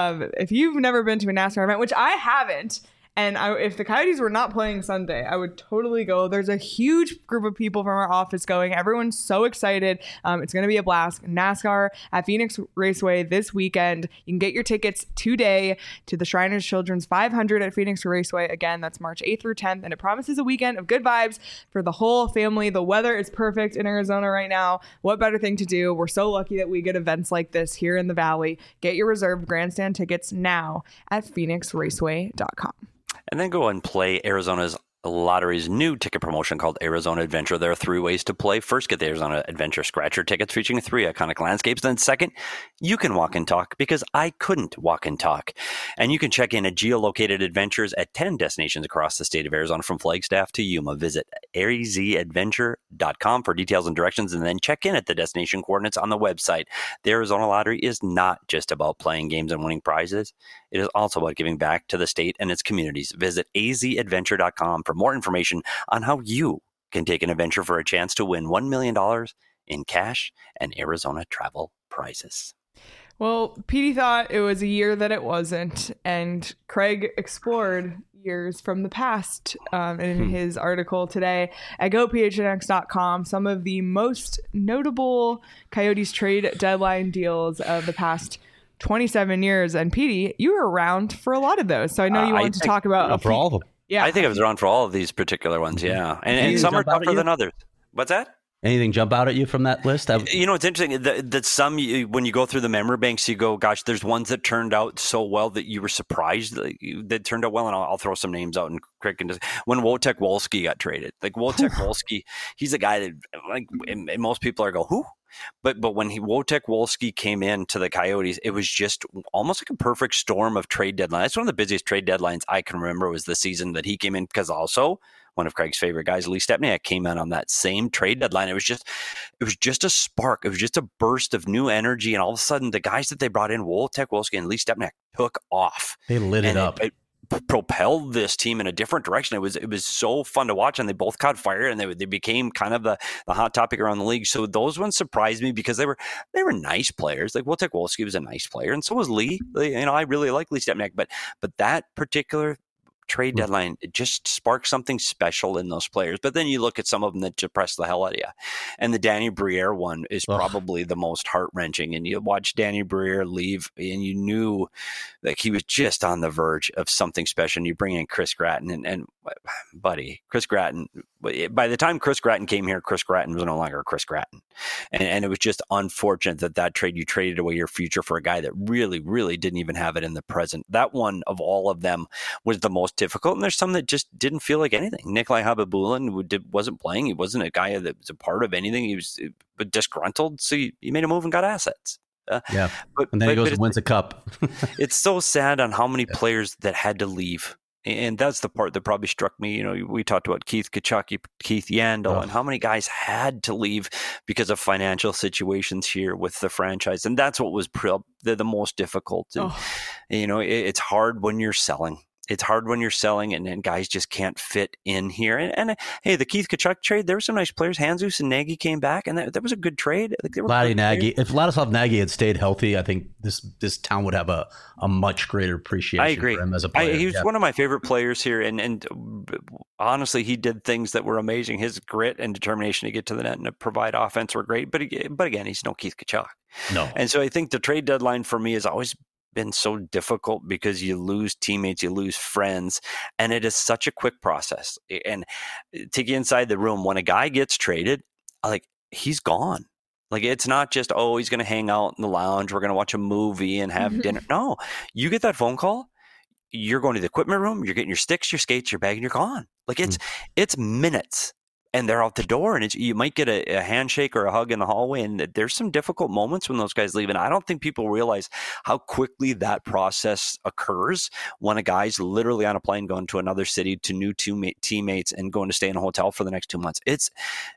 If you've never been to a NASCAR event, which I haven't, and if the Coyotes were not playing Sunday, I would totally go. There's a huge group of people from our office going. Everyone's so excited. It's going to be a blast. NASCAR at Phoenix Raceway this weekend. You can get your tickets today to the Shriners Children's 500 at Phoenix Raceway. Again, that's March 8th through 10th, and it promises a weekend of good vibes for the whole family. The weather is perfect in Arizona right now. What better thing to do? We're so lucky that we get events like this here in the Valley. Get your reserved grandstand tickets now at phoenixraceway.com. And then go and play Arizona's Lottery's new ticket promotion called Arizona Adventure. There are 3 ways to play. First, get the Arizona Adventure Scratcher tickets featuring 3 iconic landscapes. Then second, you can walk and talk because I couldn't walk and talk. And you can check in at geolocated adventures at 10 destinations across the state of Arizona from Flagstaff to Yuma. Visit arizadventure.com for details and directions, and then check in at the destination coordinates on the website. The Arizona Lottery is not just about playing games and winning prizes. It is also about giving back to the state and its communities. Visit azadventure.com for more information on how you can take an adventure for a chance to win $1 million in cash and Arizona travel prizes. Well, Petey thought it was a year that it wasn't, and Craig explored years from the past in his article today at GoPHNX.com. Some of the most notable Coyotes trade deadline deals of the past 27 years. And Petey, you were around for a lot of those, so I know you wanted to talk about for all of them. Yeah, I think I was around for all of these particular ones. Yeah, and some are tougher than others. What's that? Anything jump out at you from that list? You know, it's interesting that some, when you go through the memory banks, you go, gosh, there's ones that turned out so well that you were surprised that turned out well. And I'll throw some names out and Craig can just, when Wojtek Wolski got traded, like Wojtek Wolski, he's a guy that like, and most people are go, who? But when Wojtek Wolski came in to the Coyotes, it was just almost like a perfect storm of trade deadlines. That's one of the busiest trade deadlines I can remember was the season that he came in, because also one of Craig's favorite guys, Lee Stepniak, came in on that same trade deadline. It was just a spark. It was just a burst of new energy. And all of a sudden, the guys that they brought in, Wojtek Wolski and Lee Stepniak, took off. They lit it up. It propelled this team in a different direction. It was so fun to watch, and they both caught fire, and they became kind of the hot topic around the league. So those ones surprised me because they were nice players. Like Wojtek Wolski was a nice player, and so was Lee. I really like Lee Stepniak, but that particular trade deadline, it just sparked something special in those players. But then you look at some of them that depress the hell out of you. And the Danny Briere one is probably the most heart-wrenching. And you watch Danny Briere leave, and you knew like he was just on the verge of something special. And you bring in Chris Gratton, and buddy, Chris Gratton, by the time Chris Gratton came here, Chris Gratton was no longer Chris Gratton. And it was just unfortunate that trade, you traded away your future for a guy that really, really didn't even have it in the present. That one of all of them was the most difficult. And there's some that just didn't feel like anything. Nikolai Habibulin wasn't playing. He wasn't a guy that was a part of anything. He was disgruntled. So you made a move and got assets. And then he goes and wins a cup. It's so sad on how many players that had to leave And that's the part that probably struck me. We talked about Keith Tkachuk, Keith Yandel, and how many guys had to leave because of financial situations here with the franchise. And that's what was the most difficult. And, it's hard when you're selling. It's hard when you're selling and guys just can't fit in here. And hey, the Keith Tkachuk trade, there were some nice players. Handzus and Nagy came back, and that was a good trade. Nagy. If Vladislav Nagy had stayed healthy, I think this town would have a much greater appreciation for him as a player. He was one of my favorite players here, and honestly, he did things that were amazing. His grit and determination to get to the net and to provide offense were great. But again, he's no Keith Tkachuk. No. And so I think the trade deadline for me has always been so difficult because you lose teammates, you lose friends, and it is such a quick process. And take you inside the room, when a guy gets traded, like, he's gone. Like, it's not just, he's going to hang out in the lounge, we're going to watch a movie and have dinner. No, you get that phone call, you're going to the equipment room, you're getting your sticks, your skates, your bag, and you're gone. Like, it's minutes. And they're out the door, and you might get a handshake or a hug in the hallway. And there's some difficult moments when those guys leave. And I don't think people realize how quickly that process occurs when a guy's literally on a plane going to another city to new teammates and going to stay in a hotel for the next 2 months. It's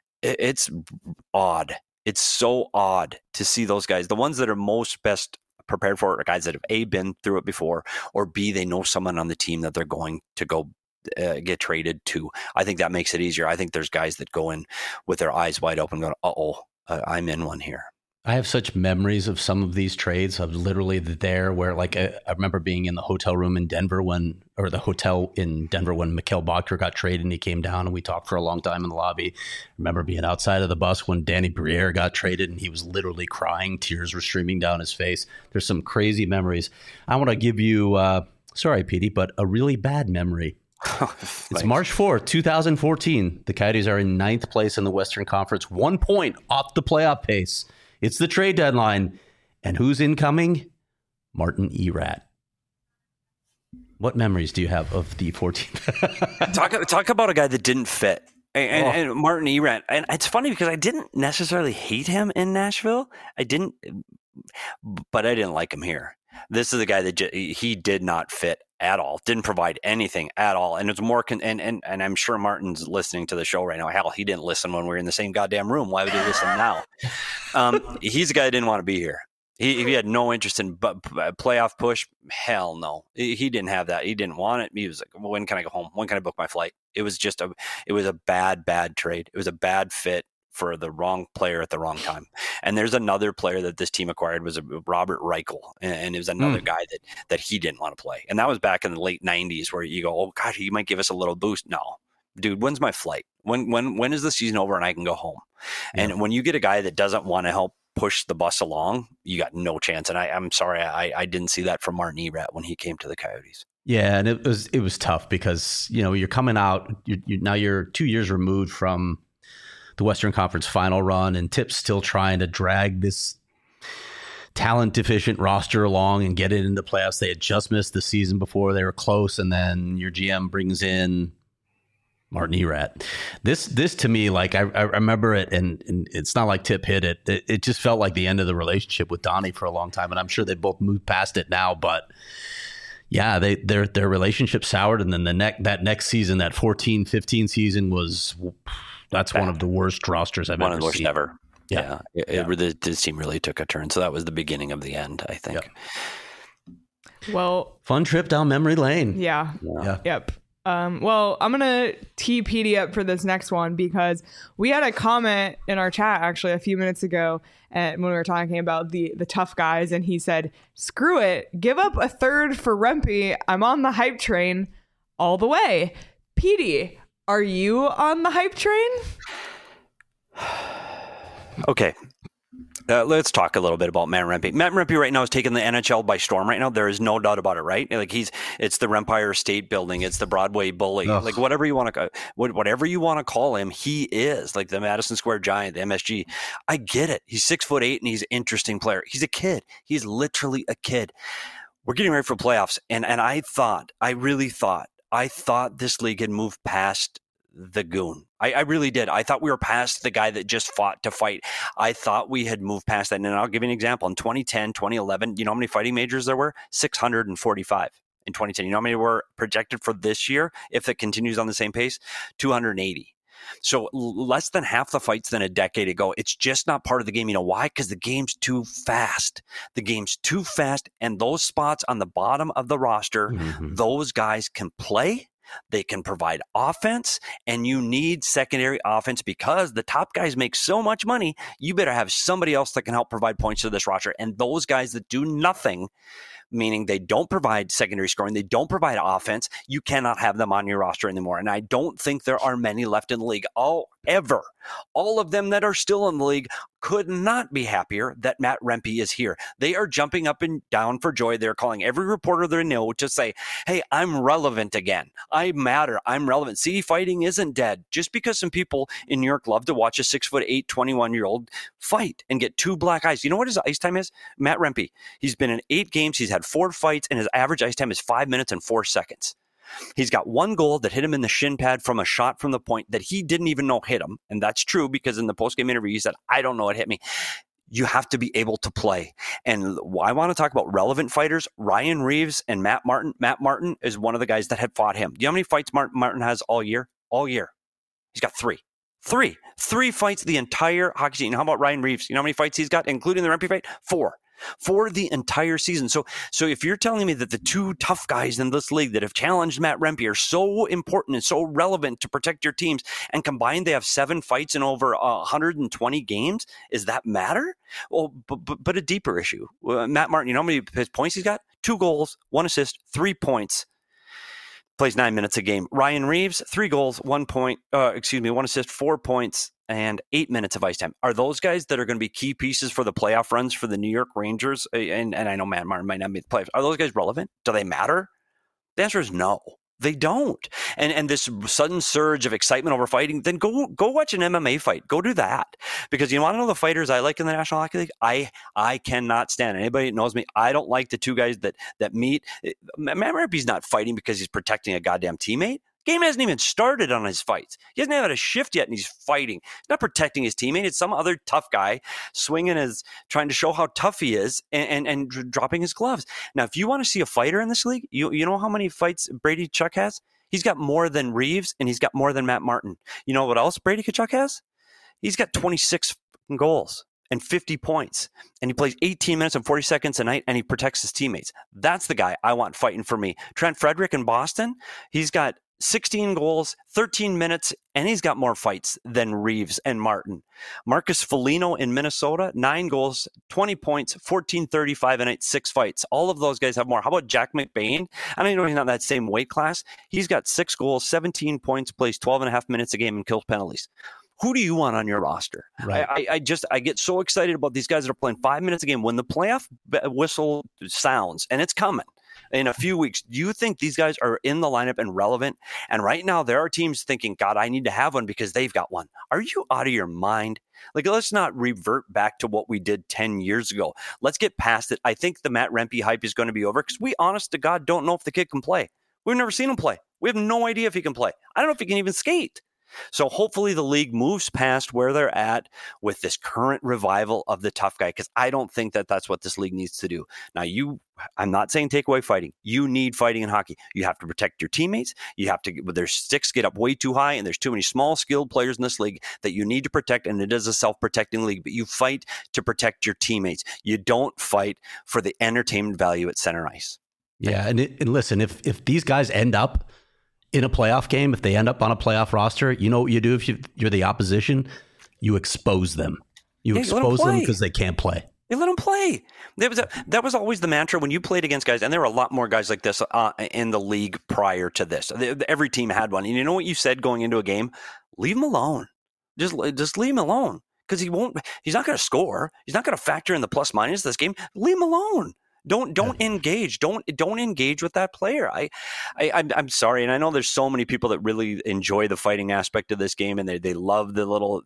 odd. It's so odd to see those guys. The ones that are most best prepared for it are guys that have A, been through it before, or B, they know someone on the team that they're going to go get traded to. I think that makes it easier. I think there's guys that go in with their eyes wide open going, I'm in one here. I have such memories of some of these trades of literally there where, like, I remember being in the hotel room in Denver when Mikhail Boedker got traded and he came down and we talked for a long time in the lobby. I remember being outside of the bus when Danny Briere got traded and he was literally crying. Tears were streaming down his face. There's some crazy memories. I want to give you, sorry, Petey, but a really bad memory. It's March 4th, 2014. The Coyotes are in 9th place in the Western Conference, 1 point off the playoff pace. It's the trade deadline. And who's incoming? Martin Erat. What memories do you have of the 14th? Talk about a guy that didn't fit. And Martin Erat. And it's funny because I didn't necessarily hate him in Nashville. But I didn't like him here. This is a guy that he did not fit at all, didn't provide anything at all. And it's more, and I'm sure Martin's listening to the show right now. Hell, he didn't listen when we were in the same goddamn room. Why would he listen now? He's a guy that didn't want to be here. He had no interest in playoff push. Hell no. He didn't have that. He didn't want it. He was like, well, when can I go home? When can I book my flight? It was a bad trade. It was a bad fit for the wrong player at the wrong time. And there's another player that this team acquired was Robert Reichel. And it was another guy that he didn't want to play. And that was back in the late 90s where you go, oh gosh, he might give us a little boost. No, dude, when's my flight? When is the season over and I can go home? Yeah. And when you get a guy that doesn't want to help push the bus along, you got no chance. And I'm sorry, I didn't see that from Martin Erat when he came to the Coyotes. Yeah, and it was tough because, you're coming out, you're 2 years removed from the Western Conference final run, and Tip's still trying to drag this talent deficient roster along and get it into playoffs. They had just missed the season before, they were close, and then your GM brings in Martin Erat. This to me, like, I remember it, and it's not like Tip hit it. It just felt like the end of the relationship with Donnie for a long time, and I'm sure they both moved past it now, but yeah, their relationship soured, and then that next season, that 14-15 season that's bad. One of the worst rosters I've ever seen. One of the worst ever. Yeah. This team really took a turn. So that was the beginning of the end, I think. Yeah. Well, fun trip down memory lane. Yeah. Yep. Well, I'm going to tee Petey up for this next one because we had a comment in our chat actually a few minutes ago when we were talking about the tough guys, and he said, screw it, give up a third for Rempe. I'm on the hype train all the way. Petey, are you on the hype train? Okay. Let's talk a little bit about Matt Rempe. Matt Rempe right now is taking the NHL by storm right now. There is no doubt about it, right? Like it's the Rempire State Building. It's the Broadway Bully. Ugh. Like whatever you want to call him, he is like the Madison Square Giant, the MSG. I get it. He's 6'8" and he's an interesting player. He's a kid. He's literally a kid. We're getting ready for playoffs. And I really thought this league had moved past the goon. I really did. I thought we were past the guy that just fought to fight. I thought we had moved past that. And I'll give you an example. In 2010, 2011, you know how many fighting majors there were? 645. in 2010. You know how many were projected for this year if it continues on the same pace? 280. So less than half the fights than a decade ago. It's just not part of the game. You know why? Because the game's too fast. The game's too fast, and those spots on the bottom of the roster, those guys can play. They can provide offense, and you need secondary offense because the top guys make so much money. You better have somebody else that can help provide points to this roster. And those guys that do nothing, meaning they don't provide secondary scoring, they don't provide offense, you cannot have them on your roster anymore. And I don't think there are many left in the league. Ever. All of them that are still in the league could not be happier that Matt Rempe is here. They are jumping up and down for joy. They're calling every reporter they know to say, hey, I'm relevant again. I matter. I'm relevant. See, fighting isn't dead. Just because some people in New York love to watch a 6'8", 21-year-old fight and get two black eyes. You know what his ice time is? Matt Rempe. He's been in 8 games. He's had 4 fights, and his average ice time is 5 minutes and 4 seconds. He's got 1 goal that hit him in the shin pad from a shot from the point that he didn't even know hit him. And that's true because in the postgame interview, he said, I don't know what hit me. You have to be able to play. And I want to talk about relevant fighters, Ryan Reeves and Matt Martin. Matt Martin is one of the guys that had fought him. Do you know how many fights Martin has all year? All year. He's got 3. 3 fights the entire hockey season. How about Ryan Reeves? You know how many fights he's got, including the Rempe fight? 4. For the entire season. So if you're telling me that the 2 tough guys in this league that have challenged Matt Rempe are so important and so relevant to protect your teams, and combined they have 7 fights in over 120 games, does that matter? Well, but a deeper issue. Matt Martin, you know how many points he's got? 2 goals, 1 assist, 3 points. Plays 9 minutes a game. Ryan Reeves, 3 goals, 1 assist, 4 points, and 8 minutes of ice time. Are those guys that are going to be key pieces for the playoff runs for the New York Rangers? And I know Matt Martin might not be the playoffs. Are those guys relevant? Do they matter? The answer is no. They don't. And this sudden surge of excitement over fighting, then go watch an MMA fight. Go do that. Because you want to know the fighters I like in the National Hockey League? I cannot stand it. Anybody that knows me, I don't like the 2 guys that meet. Matt Rempe's not fighting because he's protecting a goddamn teammate. Game hasn't even started on his fights. He hasn't had a shift yet, and he's fighting. He's not protecting his teammate. It's some other tough guy trying to show how tough he is and dropping his gloves. Now, if you want to see a fighter in this league, you know how many fights Brady Tkachuk has? He's got more than Reeves, and he's got more than Matt Martin. You know what else Brady Tkachuk has? He's got 26 goals and 50 points, and he plays 18 minutes and 40 seconds a night, and he protects his teammates. That's the guy I want fighting for me. Trent Frederick in Boston, he's got 16 goals, 13 minutes, and he's got more fights than Reeves and Martin. Marcus Foligno in Minnesota, 9 goals, 20 points, 14-35 and 6 fights. All of those guys have more. How about Jack McBain? I don't know, he's not in that same weight class. He's got 6 goals, 17 points, plays 12 and a half minutes a game and kills penalties. Who do you want on your roster? Right. I get so excited about these guys that are playing 5 minutes a game. When the playoff whistle sounds, and it's coming in a few weeks, do you think these guys are in the lineup and relevant? And right now there are teams thinking, God, I need to have one because they've got one. Are you out of your mind? Like, let's not revert back to what we did 10 years ago. Let's get past it. I think the Matt Rempe hype is going to be over because we, honest to God, don't know if the kid can play. We've never seen him play. We have no idea if he can play. I don't know if he can even skate. So hopefully the league moves past where they're at with this current revival of the tough guy, because I don't think that that's what this league needs to do. Now, I'm not saying take away fighting. You need fighting in hockey. You have to protect your teammates. You have to, their sticks get up way too high, and there's too many small, skilled players in this league that you need to protect, and it is a self-protecting league, but you fight to protect your teammates. You don't fight for the entertainment value at center ice. Yeah, and listen, if these guys end up in a playoff game, if they end up on a playoff roster, you know what you do if you're the opposition? You expose them. You expose them because they can't play. They let them play. That was always the mantra when you played against guys, and there were a lot more guys like this in the league prior to this. Every team had one. And you know what you said going into a game? Leave him alone. Just leave him alone, because he's not going to score. He's not going to factor in the plus minus this game. Leave him alone. Don't engage. Don't engage with that player. I'm sorry, and I know there's so many people that really enjoy the fighting aspect of this game, and they love the little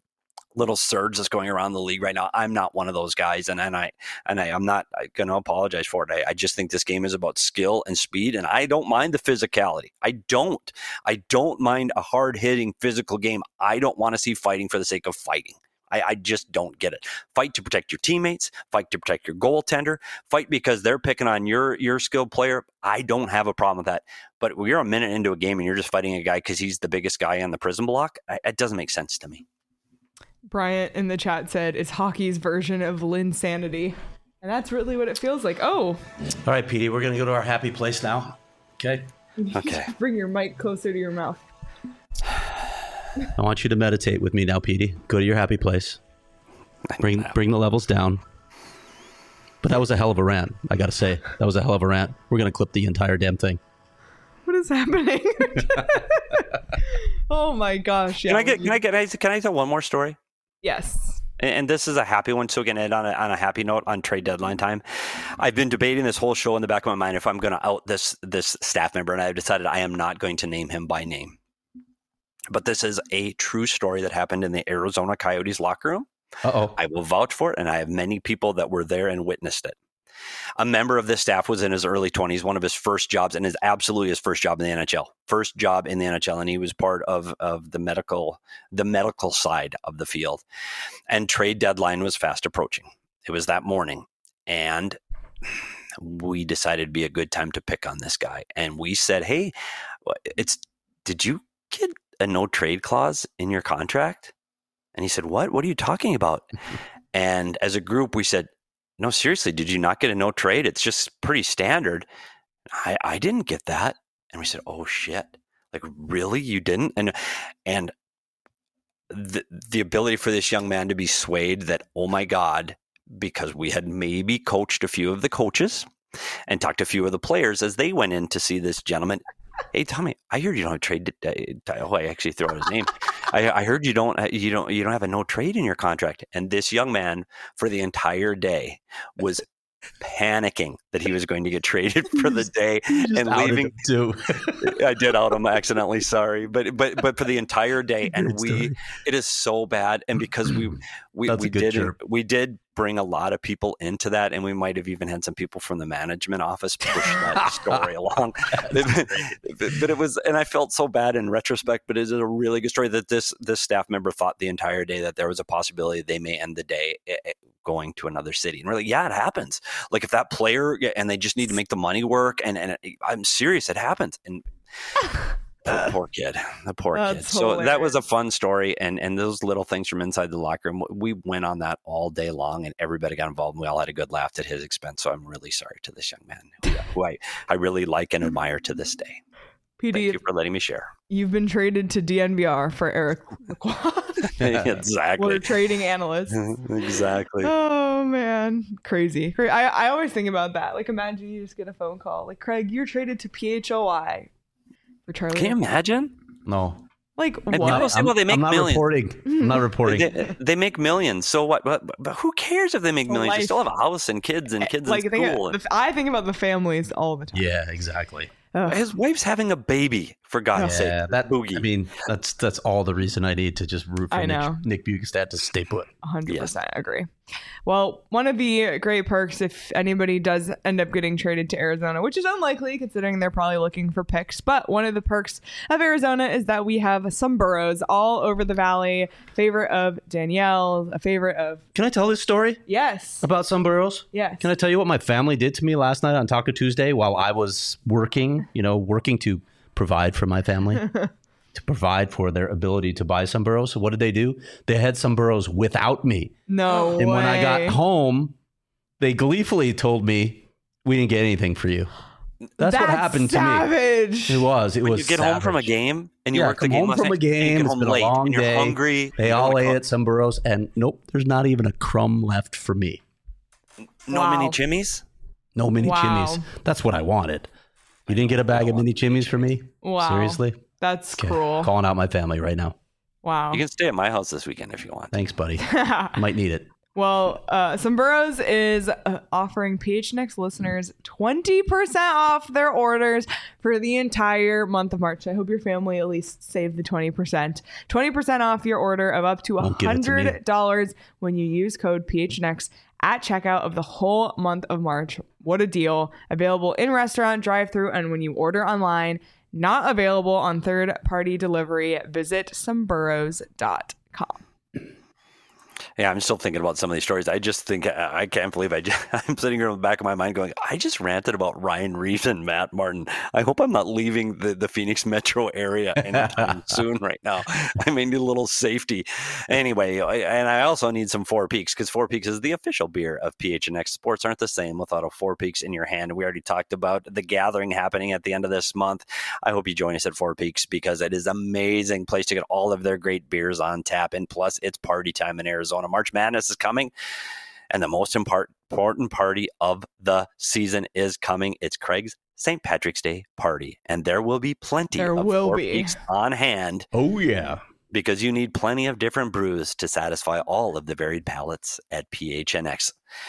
surge that's going around the league right now. I'm not one of those guys, and I'm not going to apologize for it. I just think this game is about skill and speed, and I don't mind the physicality. I don't mind a hard hitting physical game. I don't want to see fighting for the sake of fighting. I just don't get it. Fight to protect your teammates, fight to protect your goaltender, fight because they're picking on your skilled player. I don't have a problem with that. But you're a minute into a game and you're just fighting a guy because he's the biggest guy on the prison block. It doesn't make sense to me. Bryant in the chat said it's hockey's version of Linsanity. And that's really what it feels like. Oh. All right, Petey, we're going to go to our happy place now. Okay? Okay. Bring your mic closer to your mouth. I want you to meditate with me now, Petey. Go to your happy place. Bring the levels down. But that was a hell of a rant, I got to say. That was a hell of a rant. We're going to clip the entire damn thing. What is happening? Oh my gosh. Yeah. Can I tell one more story? Yes. And this is a happy one, so we can end on a happy note on trade deadline time. I've been debating this whole show in the back of my mind if I'm going to out this staff member, and I've decided I am not going to name him by name. But this is a true story that happened in the Arizona Coyotes locker room. Uh-oh. I will vouch for it, and I have many people that were there and witnessed it. A member of this staff was in his early 20s, one of his first jobs, and is absolutely his first job in the NHL. First job in the NHL, and he was part of the medical side of the field. And trade deadline was fast approaching. It was that morning, and we decided it'd be a good time to pick on this guy. And we said, "Hey, did you get a no trade clause in your contract?" And he said, "What? What are you talking about?" And as a group, we said, "No, seriously, did you not get a no trade? It's just pretty standard." I didn't get that. And we said, "Oh shit. Like, really? You didn't?" And the ability for this young man to be swayed that, oh my God, because we had maybe coached a few of the coaches and talked to a few of the players as they went in to see this gentleman. "Hey, Tommy, I heard you don't have trade." I actually throw out his name. I heard you don't have a no trade in your contract. And this young man for the entire day was panicking that he was going to get traded for the day and leaving. Too. I did out him accidentally. Sorry, but for the entire day, and it is so bad. And because we did bring a lot of people into that, and we might have even had some people from the management office push that story along. But it was, and I felt so bad in retrospect. But it is a really good story that this staff member thought the entire day that there was a possibility they may end the day going to another city. And we're like, yeah, it happens. Like if that player, and they just need to make the money work. And I'm serious, it happens. And the poor kid. Hilarious. So that was a fun story. And those little things from inside the locker room, we went on that all day long, and everybody got involved, and we all had a good laugh at his expense. So I'm really sorry to this young man who I really like and admire to this day. PD, thank you for letting me share. You've been traded to DNVR for Eric Lacroix. Exactly. We're trading analysts. Exactly. Oh man, crazy. I always think about that. Like, imagine you just get a phone call, like, "Craig, you're traded to PHOI for Charlie." Can you imagine? No. Like, and what? People say, well, they make millions. I'm not reporting. They make millions. So what? But who cares if they make millions? Life. You still have a house and kids in school. I think about the families all the time. Yeah, exactly. His wife's having a baby, for God's sake. Yeah, Boogie. I mean, that's all the reason I need to just root for Nick Bjugstad to stay put. 100% agree. Well, one of the great perks, if anybody does end up getting traded to Arizona, which is unlikely considering they're probably looking for picks, but one of the perks of Arizona is that we have some burros all over the valley. Favorite of Danielle, a favorite of... Can I tell this story? Yes. About some burros? Yes. Can I tell you what my family did to me last night on Taco Tuesday while I was working to provide for my family? To provide for their ability to buy some burros. So what did they do? They had some burros without me. No And way. when I got home, they gleefully told me, "We didn't get anything for you." That's what happened savage. to me. It was. When you get home from a savage. game and you work the come game home from a game. and you get It's home been late a long and you're day. hungry. They all ate some burros, and nope, there's not even a crumb left for me. No mini chimneys? No mini Wow. chimneys. That's what I wanted. You didn't get a bag of mini chimneys for me? Wow. Seriously? That's Okay. cruel. Calling out my family right now. Wow. You can stay at my house this weekend if you want. Thanks, buddy. Might need it. Well, Some Burros is offering PHNX listeners 20% off their orders for the entire month of March. I hope your family at least saved the 20%. 20% off your order of up to $100 when you use code PHNX at checkout of the whole month of March. What a deal. Available in restaurant, drive-thru, and when you order online. Not available on third-party delivery. Visit someburros.com. Yeah, I'm still thinking about some of these stories. I just think I can't believe I'm sitting here in the back of my mind going, I just ranted about Ryan Reeves and Matt Martin. I hope I'm not leaving the Phoenix metro area anytime soon right now. I may need a little safety. Anyway, and I also need some Four Peaks, because Four Peaks is the official beer of PHNX. Sports aren't the same without a Four Peaks in your hand. We already talked about the gathering happening at the end of this month. I hope you join us at Four Peaks, because it is an amazing place to get all of their great beers on tap. And plus, it's party time in Arizona. March Madness is coming, and the most important party of the season is coming. It's Craig's St. Patrick's Day party, and there will be plenty of Four Peaks on hand. Oh, yeah. Because you need plenty of different brews to satisfy all of the varied palates at PHNX.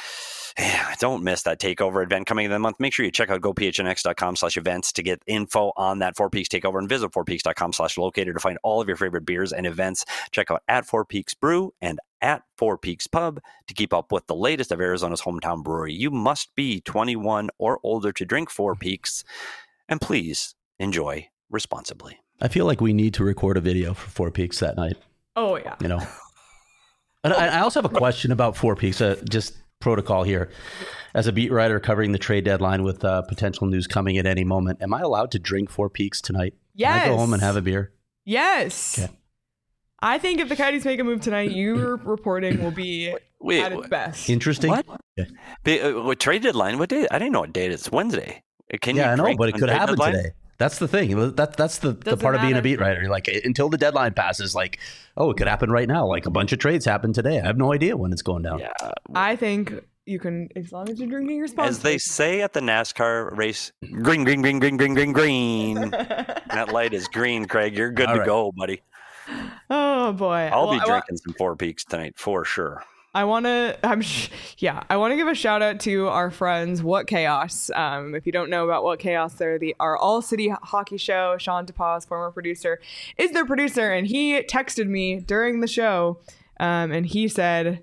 Don't miss that takeover event coming in the month. Make sure you check out gophnx.com/events to get info on that Four Peaks takeover, and visit fourpeaks.com/locator to find all of your favorite beers and events. Check out at Four Peaks Brew and at Four Peaks Pub to keep up with the latest of Arizona's hometown brewery. You must be 21 or older to drink Four Peaks, and please enjoy responsibly. I feel like we need to record a video for Four Peaks that night. Oh, yeah. You know, and I also have a question about Four Peaks, just protocol here. As a beat writer covering the trade deadline with potential news coming at any moment, am I allowed to drink Four Peaks tonight? Yes. Can I go home and have a beer? Yes. Okay. I think if the Coyotes make a move tonight, your reporting will be at its best. Interesting. What? What trade deadline? What day? I didn't know what date it's. Wednesday. I know, but it could happen today. That's the thing. That's the part of being a beat writer. You're like, until the deadline passes, like, oh, it could happen right now. Like a bunch of trades happen today. I have no idea when it's going down. Yeah. I think you can, as long as you're drinking responsibly. As they say at the NASCAR race, green, green, green, green, green, green, green. That light is green, Craig. You're good to go, buddy. Oh, boy. I'll be drinking some Four Peaks tonight for sure. I want to give a shout out to our friends, What Chaos. If you don't know about What Chaos, they're our all-city hockey show. Sean DePaz, former producer, is their producer, and he texted me during the show, and he said,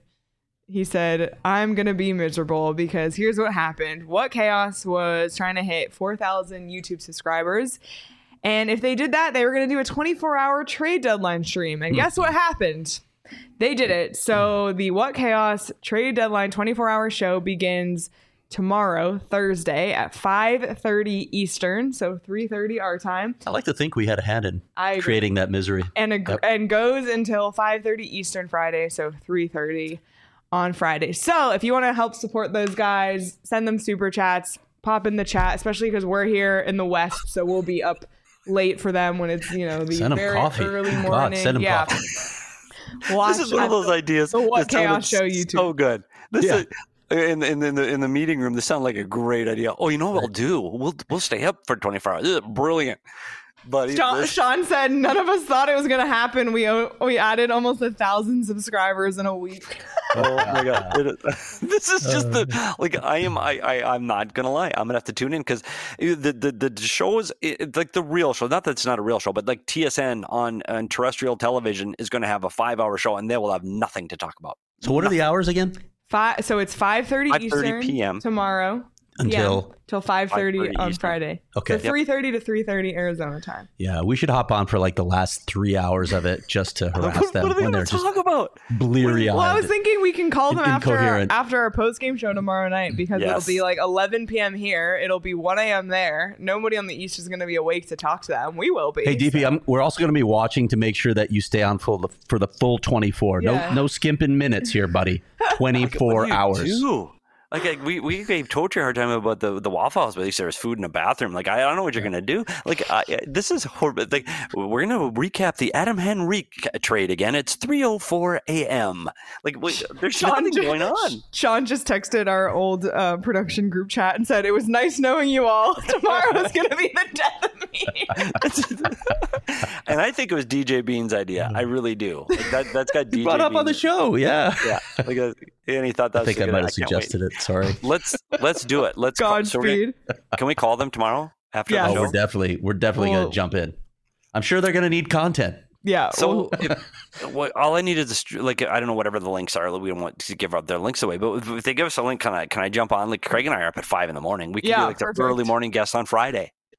I'm going to be miserable because here's what happened. What Chaos was trying to hit 4,000 YouTube subscribers, and if they did that, they were going to do a 24-hour trade deadline stream, and guess what happened? They did it. So the What Chaos trade deadline 24-hour show begins tomorrow, Thursday at 5:30 Eastern, so 3:30 our time. I like to think we had a hand in creating that misery. And goes until 5:30 Eastern Friday, so 3:30 on Friday. So if you want to help support those guys, send them super chats, pop in the chat, especially because we're here in the West, so we'll be up late for them when it's, the very early morning. God, send them coffee. This is one of those ideas. The What Chaos show YouTube. So good. This is in the meeting room. This sounds like a great idea. Oh, you know what we'll do? We'll stay up for 24 hours. This is brilliant. But Sean said none of us thought it was going to happen. We added almost 1,000 subscribers in a week. Oh my god! This is just I'm not gonna lie. I'm gonna have to tune in because the show is like the real show. Not that it's not a real show, but like TSN on terrestrial television is going to have a 5-hour show, and they will have nothing to talk about. So what are the hours again? So it's 5:30 Eastern p.m. tomorrow. Until 5:30 on Friday. Okay. So 3:30 to 3:30 Arizona time. Yeah, we should hop on for like the last 3 hours of it just to harass them. What are they going to talk about? Bleary-eyed. Well, I was thinking we can call them after our post-game show tomorrow night because it'll be like 11 p.m. here. It'll be 1 a.m. there. Nobody on the East is going to be awake to talk to them. We will be. Hey, DP, we're also going to be watching to make sure that you stay on for the full 24. Yeah. No skimping minutes here, buddy. 24 hours. Like we gave Tochi a hard time about the Waffle House, but at least there was food in the bathroom. Like I don't know what you're gonna do. Like this is horrible. Like we're gonna recap the Adam Henrique trade again. It's 3:04 a.m. Like there's nothing going on. Sean just texted our old production group chat and said it was nice knowing you all. Tomorrow is gonna be the death of me. And I think it was DJ Bean's idea. I really do. Like that's got DJ brought up Bean on the show. Yeah. Like, and he thought that. I think I might have suggested it. Sorry. Let's do it. Godspeed. Can we call them tomorrow after the show? We're definitely going to jump in. I'm sure they're going to need content. Yeah. So all I need is I don't know, whatever the links are. We don't want to give out their links away, but if they give us a link, can I jump on? Like Craig and I are up at 5 a.m. We can do like the early morning guest on Friday.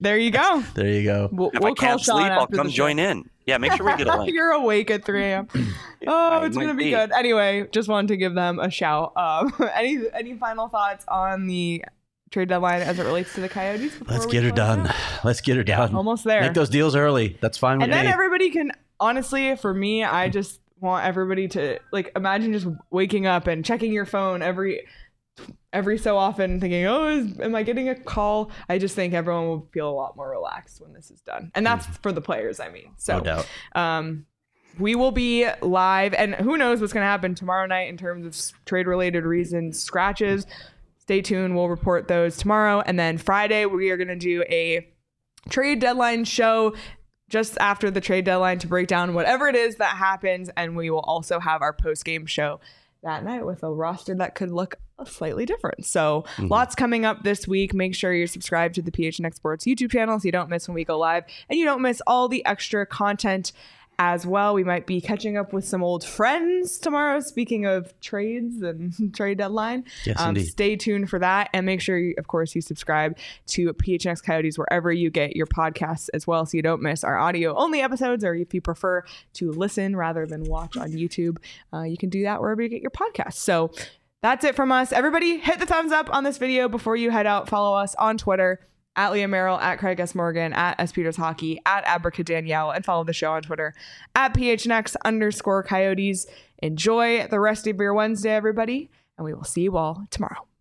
There you go. There you go. If We'll I can't call Sean sleep, I'll after come the show. join in. Yeah, make sure we get a link. You're awake at 3 a.m. Oh, it's going to be good. Anyway, just wanted to give them a shout. Any final thoughts on the trade deadline as it relates to the Coyotes? Let's get her done. Let's get her done. Almost there. Make those deals early. That's fine with and me. then everybody can, honestly, for me, I just want everybody to, like, imagine just waking up and checking your phone every so often thinking, am I getting a call? I just think everyone will feel a lot more relaxed when this is done. And that's for the players, I mean. So, no doubt. We will be live, and who knows what's going to happen tomorrow night in terms of trade-related reasons, scratches. Stay tuned. We'll report those tomorrow. And then Friday, we are going to do a trade deadline show just after the trade deadline to break down whatever it is that happens. And we will also have our post-game show that night with a roster that could look slightly different. So lots coming up this week. Make sure you're subscribed to the PHNX Sports YouTube channel so you don't miss when we go live and you don't miss all the extra content as well. We might be catching up with some old friends tomorrow. Speaking of trades and trade deadline, yes, indeed. Stay tuned for that, and make sure, you subscribe to PHNX Coyotes wherever you get your podcasts as well, so you don't miss our audio only episodes. Or if you prefer to listen rather than watch on YouTube, you can do that wherever you get your podcasts. So that's it from us. Everybody, hit the thumbs up on this video before you head out. Follow us on Twitter at Leah Merrill, at Craig S. Morgan, at S. Peters Hockey, at Abracadanielle, and follow the show on Twitter at PHNX_Coyotes. Enjoy the rest of your Wednesday, everybody, and we will see you all tomorrow.